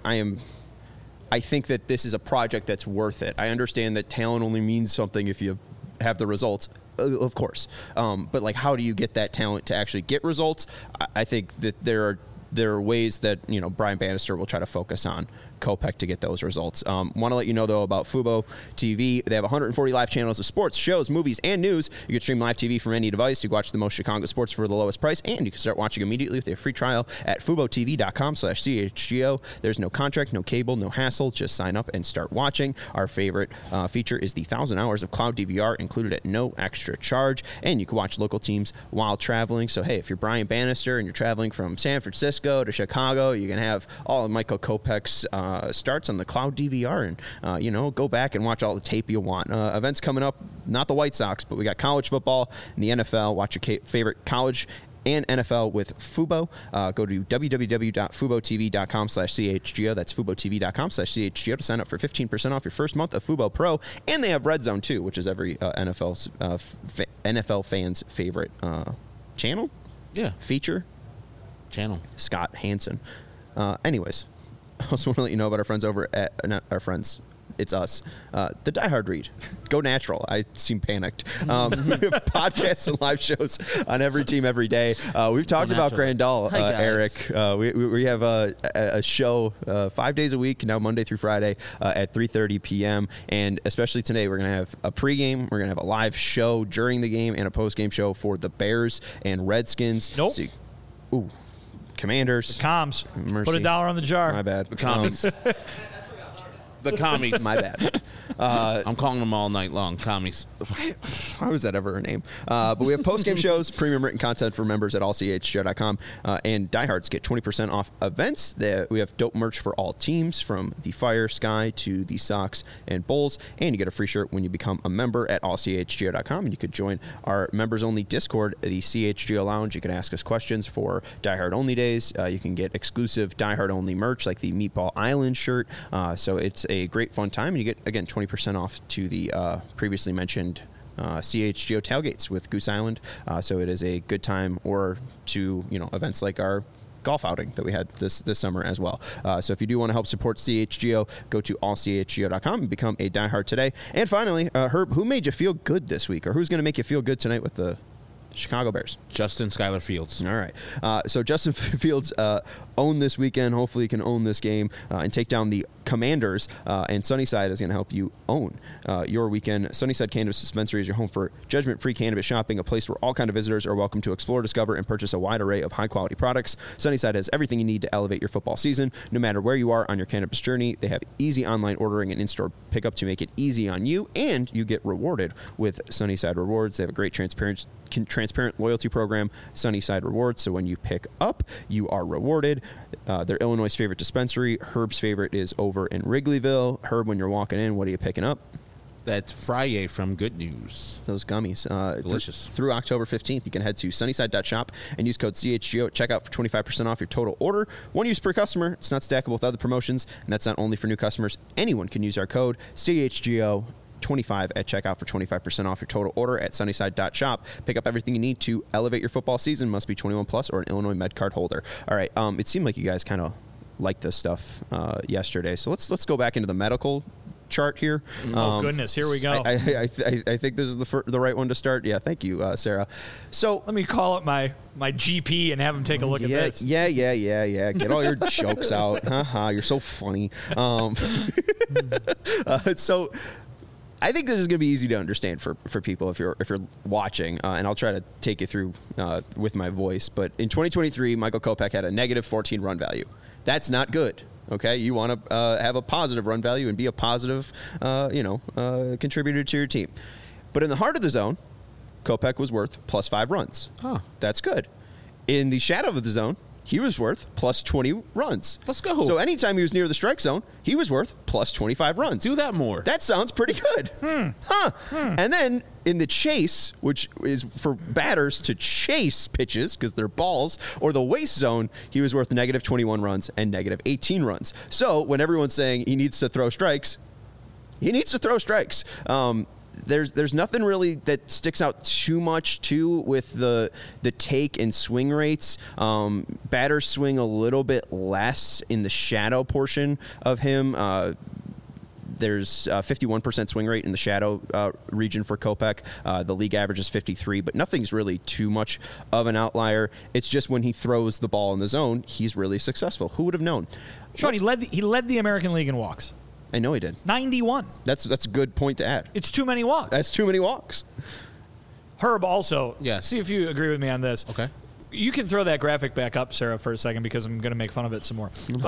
I think that this is a project that's worth it. I understand that talent only means something if you have the results. Of course. But like, how do you get that talent to actually get results? I think that there are ways that, Brian Bannister will try to focus on Kopech to get those results. Want to let you know, though, about Fubo TV. They have 140 live channels of sports, shows, movies, and news. You can stream live TV from any device. You can watch the most Chicago sports for the lowest price, and you can start watching immediately with a free trial at FuboTV.com/CHGO. There's no contract, no cable, no hassle. Just sign up and start watching. Our favorite feature is the 1,000 hours of cloud DVR included at no extra charge, and you can watch local teams while traveling. So, hey, if you're Brian Bannister and you're traveling from San Francisco to Chicago, you can have all of Michael Kopech's starts on the cloud DVR and, go back and watch all the tape you want. Events coming up, not the White Sox, but we got college football and the NFL. Watch your favorite college and NFL with Fubo. Go to www.FuboTV.com/CHGO. That's FuboTV.com/CHGO to sign up for 15% off your first month of Fubo Pro. And they have Red Zone, too, which is every NFL fan's favorite channel? Yeah. Feature? Channel. Scott Hansen. Anyways, I also want to let you know about our friends over at, not our friends, it's us, the Die Hard Read. Go natural. I seem panicked. Podcasts and live shows on every team every day. We've talked about Grandal, Eric. We have a show 5 days a week, now Monday through Friday at 3:30 p.m. And especially today, we're going to have a pregame. We're going to have a live show during the game and a postgame show for the Bears and Redskins. Nope. Commanders. The comms. Mercy. Put $1 on the jar. My bad. The commies. The commies. My bad. I'm calling them all night long. Commies. Why was that ever a name? But we have post-game shows, premium written content for members at allchgo.com, and diehards get 20% off events. We have dope merch for all teams, from the Fire, Sky to the Sox and Bulls, and you get a free shirt when you become a member at allchgo.com, and you could join our members-only Discord, the CHGO Lounge. You can ask us questions for diehard-only days. You can get exclusive diehard-only merch like the Meatball Island shirt. So it's a great fun time, and you get, again, 20% off to the previously mentioned CHGO tailgates with Goose Island. So it is a good time, or to events like our golf outing that we had this summer as well. So if you do want to help support CHGO, go to allchgo.com and become a diehard today. And finally, Herb, who made you feel good this week, or who's going to make you feel good tonight with the Chicago Bears. Justin Skylar Fields. All right. So Justin Fields owned this weekend. Hopefully he can own this game and take down the Commanders. And Sunnyside is going to help you own your weekend. Sunnyside Cannabis Dispensary is your home for judgment-free cannabis shopping, a place where all kind of visitors are welcome to explore, discover, and purchase a wide array of high-quality products. Sunnyside has everything you need to elevate your football season. No matter where you are on your cannabis journey, they have easy online ordering and in-store pickup to make it easy on you, and you get rewarded with Sunnyside Rewards. They have a great transparent loyalty program, Sunnyside Rewards. So when you pick up, you are rewarded. They're Illinois' favorite dispensary. Herb's favorite is over in Wrigleyville. Herb, when you're walking in, what are you picking up? That's Friday from Good News. Those gummies. Delicious. Through October 15th, you can head to sunnyside.shop and use code CHGO at checkout for 25% off your total order. One use per customer. It's not stackable with other promotions, and that's not only for new customers. Anyone can use our code CHGO 25 at checkout for 25% off your total order at sunnyside.shop. Pick up everything you need to elevate your football season. Must be 21 plus or an Illinois Med Card holder. All right. It seemed like you guys kind of liked this stuff yesterday. So let's go back into the medical chart here. Oh goodness, here we go. I think this is the right one to start. Yeah, thank you, Sarah. So let me call up my GP and have him take a look at this. Yeah. Get all your jokes out. You're so funny. So I think this is going to be easy to understand for people if you're watching, and I'll try to take you through with my voice. But in 2023, Michael Kopech had a negative 14 run value. That's not good. Okay, you want to have a positive run value and be a positive, contributor to your team. But in the heart of the zone, Kopech was worth plus 5 runs. Huh. That's good. In the shadow of the zone, he was worth plus 20 runs. Let's go. So anytime he was near the strike zone, he was worth plus 25 runs. Do that more. That sounds pretty good. And then in the chase, which is for batters to chase pitches because they're balls, or the waste zone, he was worth negative 21 runs and negative 18 runs. So when everyone's saying he needs to throw strikes, he needs to throw strikes. There's nothing really that sticks out too much with the take and swing rates. Batters swing a little bit less in the shadow portion of him. There's 51% swing rate in the shadow region for Kopech. The league average is 53, but nothing's really too much of an outlier. It's just when he throws the ball in the zone, he's really successful. Who would have known? Sean, he led the American League in walks. I know he did. 91. That's a good point to add. It's too many walks. That's too many walks. Herb, also. Yes. See if you agree with me on this. Okay. You can throw that graphic back up, Sarah, for a second, because I'm going to make fun of it some more.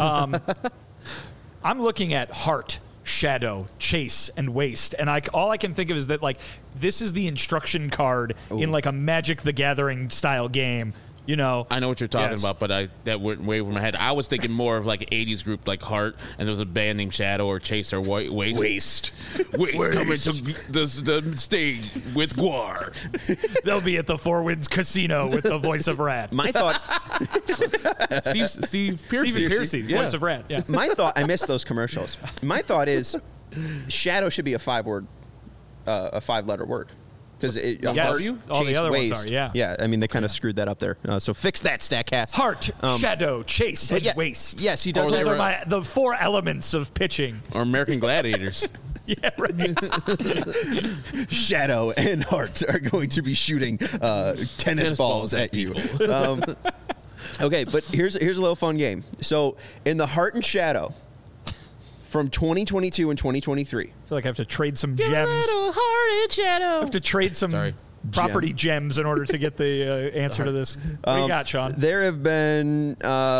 I'm looking at heart, shadow, chase, and waste, and all I can think of is that this is the instruction card in a Magic the Gathering style game. I know what you're talking about, but that went way over my head. I was thinking more of an 80s group like Heart, and there was a band named Shadow or Chase or Waste. Waste coming to the stage with Guar. They'll be at the Four Winds Casino with the voice of Rat. My thought... Steve Piercy. Voice of Rat, yeah. My thought... I missed those commercials. My thought is Shadow should be a 5-letter word. Because all the other waste. ones are, yeah. Yeah, I mean, they kind of screwed that up there. So fix that, StatCast. Heart, shadow, chase, and waste. Yes, he does. Those are the 4 elements of pitching. Or American Gladiators. Yeah, right. Shadow and Heart are going to be shooting tennis balls at you. Okay, but here's a little fun game. So in the Heart and Shadow, from 2022 and 2023. I feel like I have to trade some gems. Heart and shadow. I have to trade some property gems in order to get the answer to this. What do you got, Sean? There have been,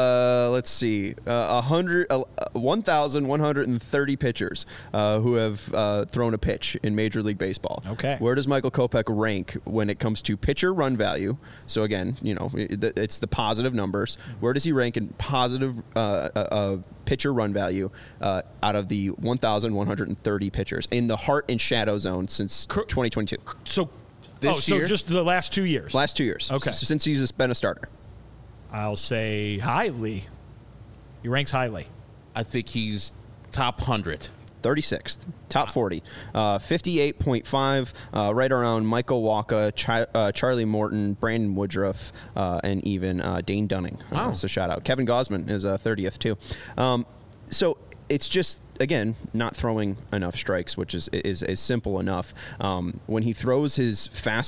1,130 pitchers who have thrown a pitch in Major League Baseball. Okay. Where does Michael Kopech rank when it comes to pitcher run value? So again, it's the positive numbers. Where does he rank in positive pitcher run value out of the 1,130 pitchers in the Heart and Shadow zone since 2022? So this year? So just the last 2 years? Last 2 years. Okay. Since he's been a starter. I'll say highly. He ranks highly. I think he's top 100. 36th, top 40, 58.5, right around Michael Wacha, Charlie Morton, Brandon Woodruff, and even Dane Dunning. Wow. So shout out. Kevin Gausman is 30th too. So it's just, again, not throwing enough strikes, which is simple enough. When he throws his fastball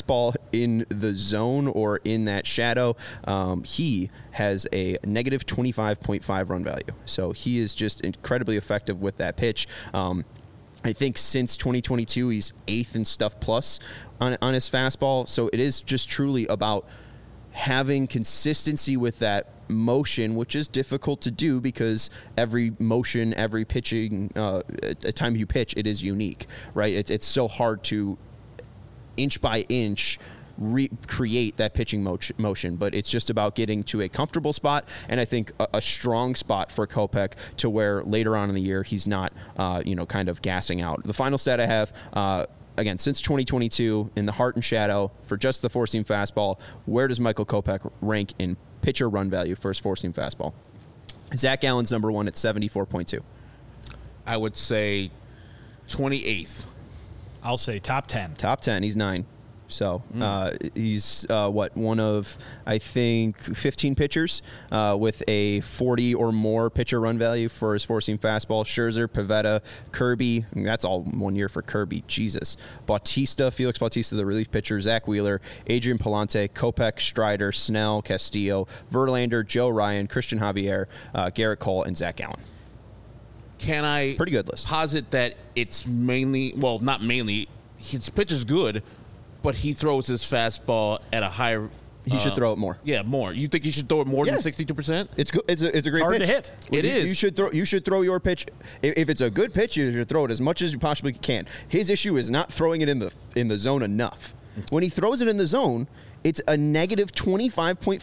in the zone or in that shadow, he has a negative 25.5 run value. So he is just incredibly effective with that pitch. I think since 2022, he's 8th in stuff plus on his fastball. So it is just truly about having consistency with that motion, which is difficult to do because every motion, every pitching, time you pitch, it is unique, right? It's so hard to inch by inch recreate that pitching motion, but it's just about getting to a comfortable spot, and I think a strong spot for Kopech to where later on in the year he's not, kind of gassing out. The final stat I have, again, since 2022, in the heart and shadow for just the four-seam fastball, where does Michael Kopech rank in pitcher run value for his four-seam fastball? Zach Gallen's number one at 74.2. I would say 28th. I'll say top 10. Top 10. He's 9. So he's one of, I think, 15 pitchers with a 40 or more pitcher run value for his four-seam fastball. Scherzer, Pivetta, Kirby. That's all 1 year for Kirby. Jesus. Bautista, Felix Bautista, the relief pitcher. Zach Wheeler, Adrian Palante, Kopech, Strider, Snell, Castillo, Verlander, Joe Ryan, Christian Javier, Garrett Cole, and Zach Gallen. Can I pretty good list. Posit that it's mainly, well, not mainly, his pitch is good, but he throws his fastball at a higher. He should throw it more. Yeah, more. You think he should throw it more than 62%? It's good. It's a great hard pitch. to hit. It is. You should throw your pitch. If it's a good pitch, you should throw it as much as you possibly can. His issue is not throwing it in the zone enough. When he throws it in the zone, it's a negative 25.5%.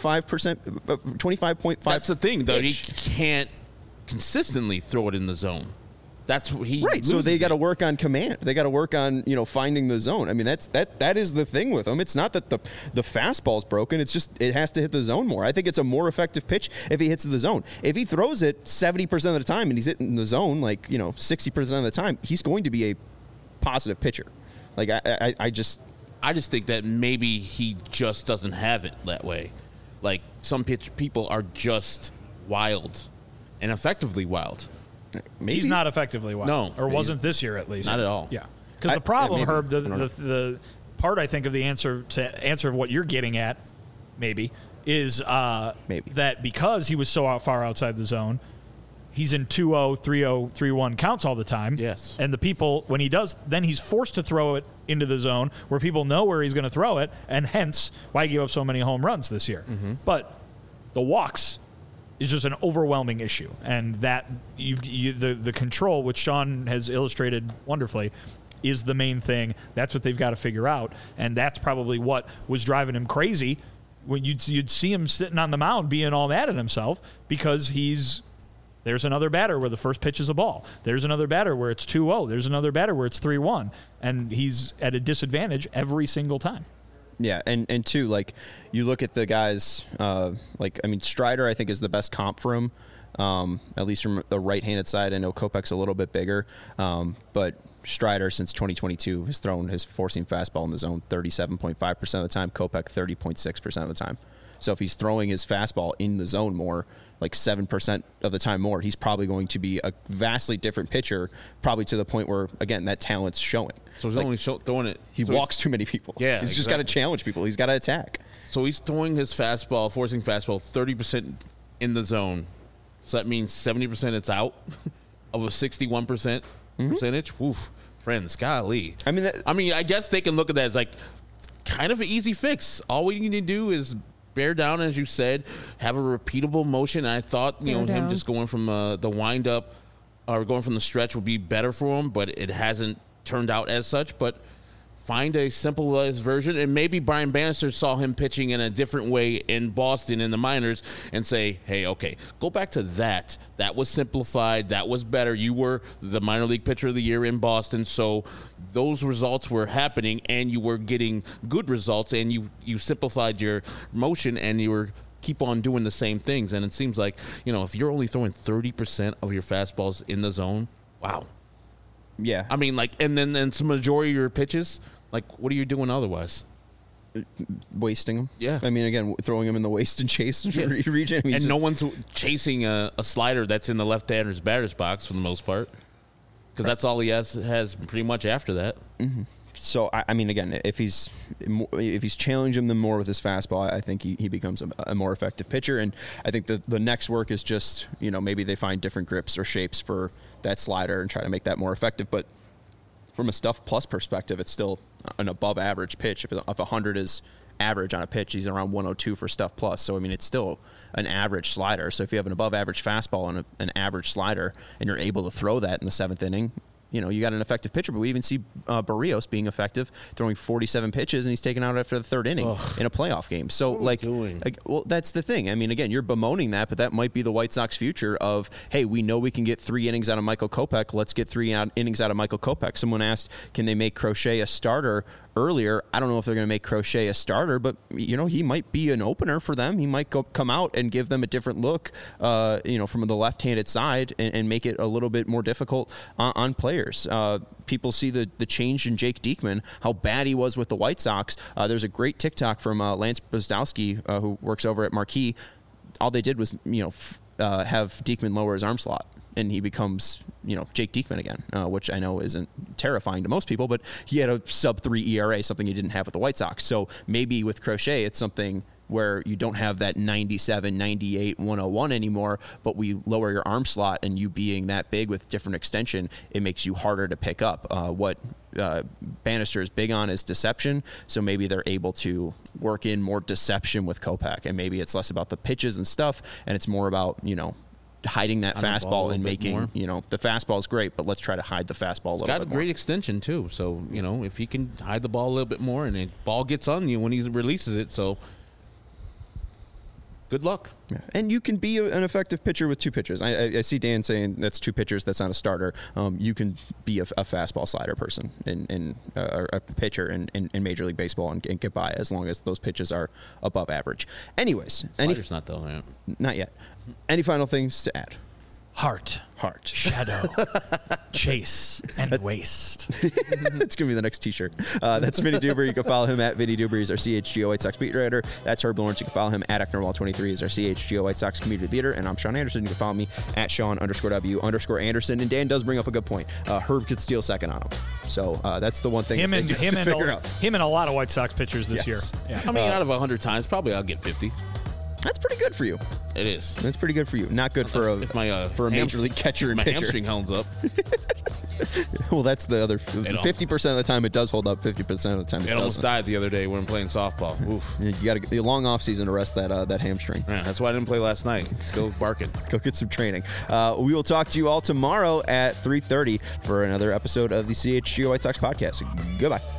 25.5. That's the thing, though. He can't consistently throw it in the zone. That's what he right. So they got to work on command. They got to work on finding the zone. I mean that is the thing with him. It's not that the fastball's broken. It's just it has to hit the zone more. I think it's a more effective pitch if he hits the zone. If he throws it 70% of the time and he's hitting the zone 60% of the time, he's going to be a positive pitcher. Like I just think that maybe he just doesn't have it that way. Like some people are just wild and effectively wild. Maybe. He's not effectively wild. No. Or wasn't this year at least. Not at all. Yeah. Because the problem, maybe. Herb, the part I think of the answer of what you're getting at, maybe, is that because he was so far outside the zone, he's in 2-0, 3-0, 3-1 counts all the time. Yes. And the people, when he does, then he's forced to throw it into the zone where people know where he's going to throw it, and hence why he gave up so many home runs this year. Mm-hmm. But the walks is just an overwhelming issue, and that the control, which Sean has illustrated wonderfully, is the main thing. That's what they've got to figure out, and that's probably what was driving him crazy. When you'd see him sitting on the mound being all mad at himself because there's another batter where the first pitch is a ball. There's another batter where it's 2-0. There's another batter where it's 3-1, and he's at a disadvantage every single time. Yeah, and two, like you look at the guys, Strider I think is the best comp for him, at least from the right-handed side. I know Kopech's a little bit bigger, but Strider since 2022 has thrown his four-seam fastball in the zone 37.5% of the time. Kopech 30.6% of the time. So if he's throwing his fastball in the zone more, like 7% of the time more, he's probably going to be a vastly different pitcher, probably to the point where, again, that talent's showing. So he's only throwing it. He walks too many people. Yeah, he's just got to challenge people. He's got to attack. So he's throwing his fastball, forcing fastball, 30% in the zone. So that means 70% it's out of a 61% percentage. Woof, friends, golly. I mean, I guess they can look at that as like kind of an easy fix. All we need to do is bear down, as you said, have a repeatable motion. And I thought, him just going from the wind up or going from the stretch would be better for him, but it hasn't turned out as such. But find a simplified version, and maybe Brian Bannister saw him pitching in a different way in Boston in the minors and say, hey, okay, go back to that. That was simplified. That was better. You were the minor league pitcher of the year in Boston, so those results were happening, and you were getting good results, and you simplified your motion, and you were keep on doing the same things. And it seems like, if you're only throwing 30% of your fastballs in the zone, wow. Yeah. I mean, and then some majority of your pitches, what are you doing otherwise? Wasting them. Yeah. I mean, again, throwing them in the waste and chase region. I mean, and no one's chasing a slider that's in the left-hander's batter's box for the most part, because that's all he has pretty much after that. Mm-hmm. So I mean, again, if he's challenging them more with his fastball, I think he becomes a more effective pitcher. And I think the next work is just, maybe they find different grips or shapes for that slider and try to make that more effective. But from a Stuff Plus perspective, it's still an above average pitch. If 100 is average on a pitch, he's around 102 for Stuff Plus. So I mean, it's still an average slider. So if you have an above average fastball and an average slider, and you're able to throw that in the 7th inning, you got an effective pitcher. But we even see Barrios being effective, throwing 47 pitches, and he's taken out after the 3rd inning in a playoff game. So, well, that's the thing. I mean, again, you're bemoaning that, but that might be the White Sox future of, hey, we know we can get 3 innings out of Michael Kopech. Let's get 3 innings out of Michael Kopech. Someone asked, can they make Crochet a starter earlier? I don't know if they're going to make Crochet a starter, but, he might be an opener for them. He might come out and give them a different look, from the left-handed side and make it a little bit more difficult on players. People see the change in Jake Diekman, how bad he was with the White Sox. There's a great TikTok from Lance Bzdowski, who works over at Marquee. All they did was, have Diekman lower his arm slot, and he becomes, Jake Diekman again, which I know isn't terrifying to most people, but he had a sub-3 ERA, something he didn't have with the White Sox. So maybe with Crochet, it's something where you don't have that 97, 98, 101 anymore, but we lower your arm slot, and you being that big with different extension, it makes you harder to pick up. What Bannister is big on is deception, so maybe they're able to work in more deception with Kopech, and maybe it's less about the pitches and stuff, and it's more about, hiding that fastball and making, the fastball is great, but let's try to hide the fastball a little bit more. Got a great extension, too, so, if he can hide the ball a little bit more, and the ball gets on you when he releases it, so good luck. Yeah. And you can be an effective pitcher with 2 pitchers. I see Dan saying that's 2 pitchers. That's not a starter. You can be a fastball slider person and a pitcher in Major League Baseball and get by as long as those pitches are above average. Anyways. Slider's not though. Yeah. Not yet. Any final things to add? Heart, shadow, chase, and waste. It's going to be the next T-shirt. That's Vinny Duber. You can follow him at Vinny Duber. He's our CHGO White Sox beat writer. That's Herb Lawrence. You can follow him at Ecknerwall23. He's our CHGO White Sox community leader. And I'm Sean Anderson. You can follow me at Sean_W_Anderson. And Dan does bring up a good point. Herb could steal second on him. So that's the one thing him and a lot of White Sox pitchers this year. Yeah. I mean, out of 100 times, probably I'll get 50. That's pretty good for you. It is. That's pretty good for you. Not good for a major league catcher and pitcher. My hamstring holds up. Well, that's the other 50% of the time it does hold up. 50% of the time it almost died the other day when I'm playing softball. Oof. You got a long off season to rest that hamstring. Yeah, that's why I didn't play last night. Still barking. Go get some training. We will talk to you all tomorrow at 3:30 for another episode of the CHGO White Sox podcast. Goodbye.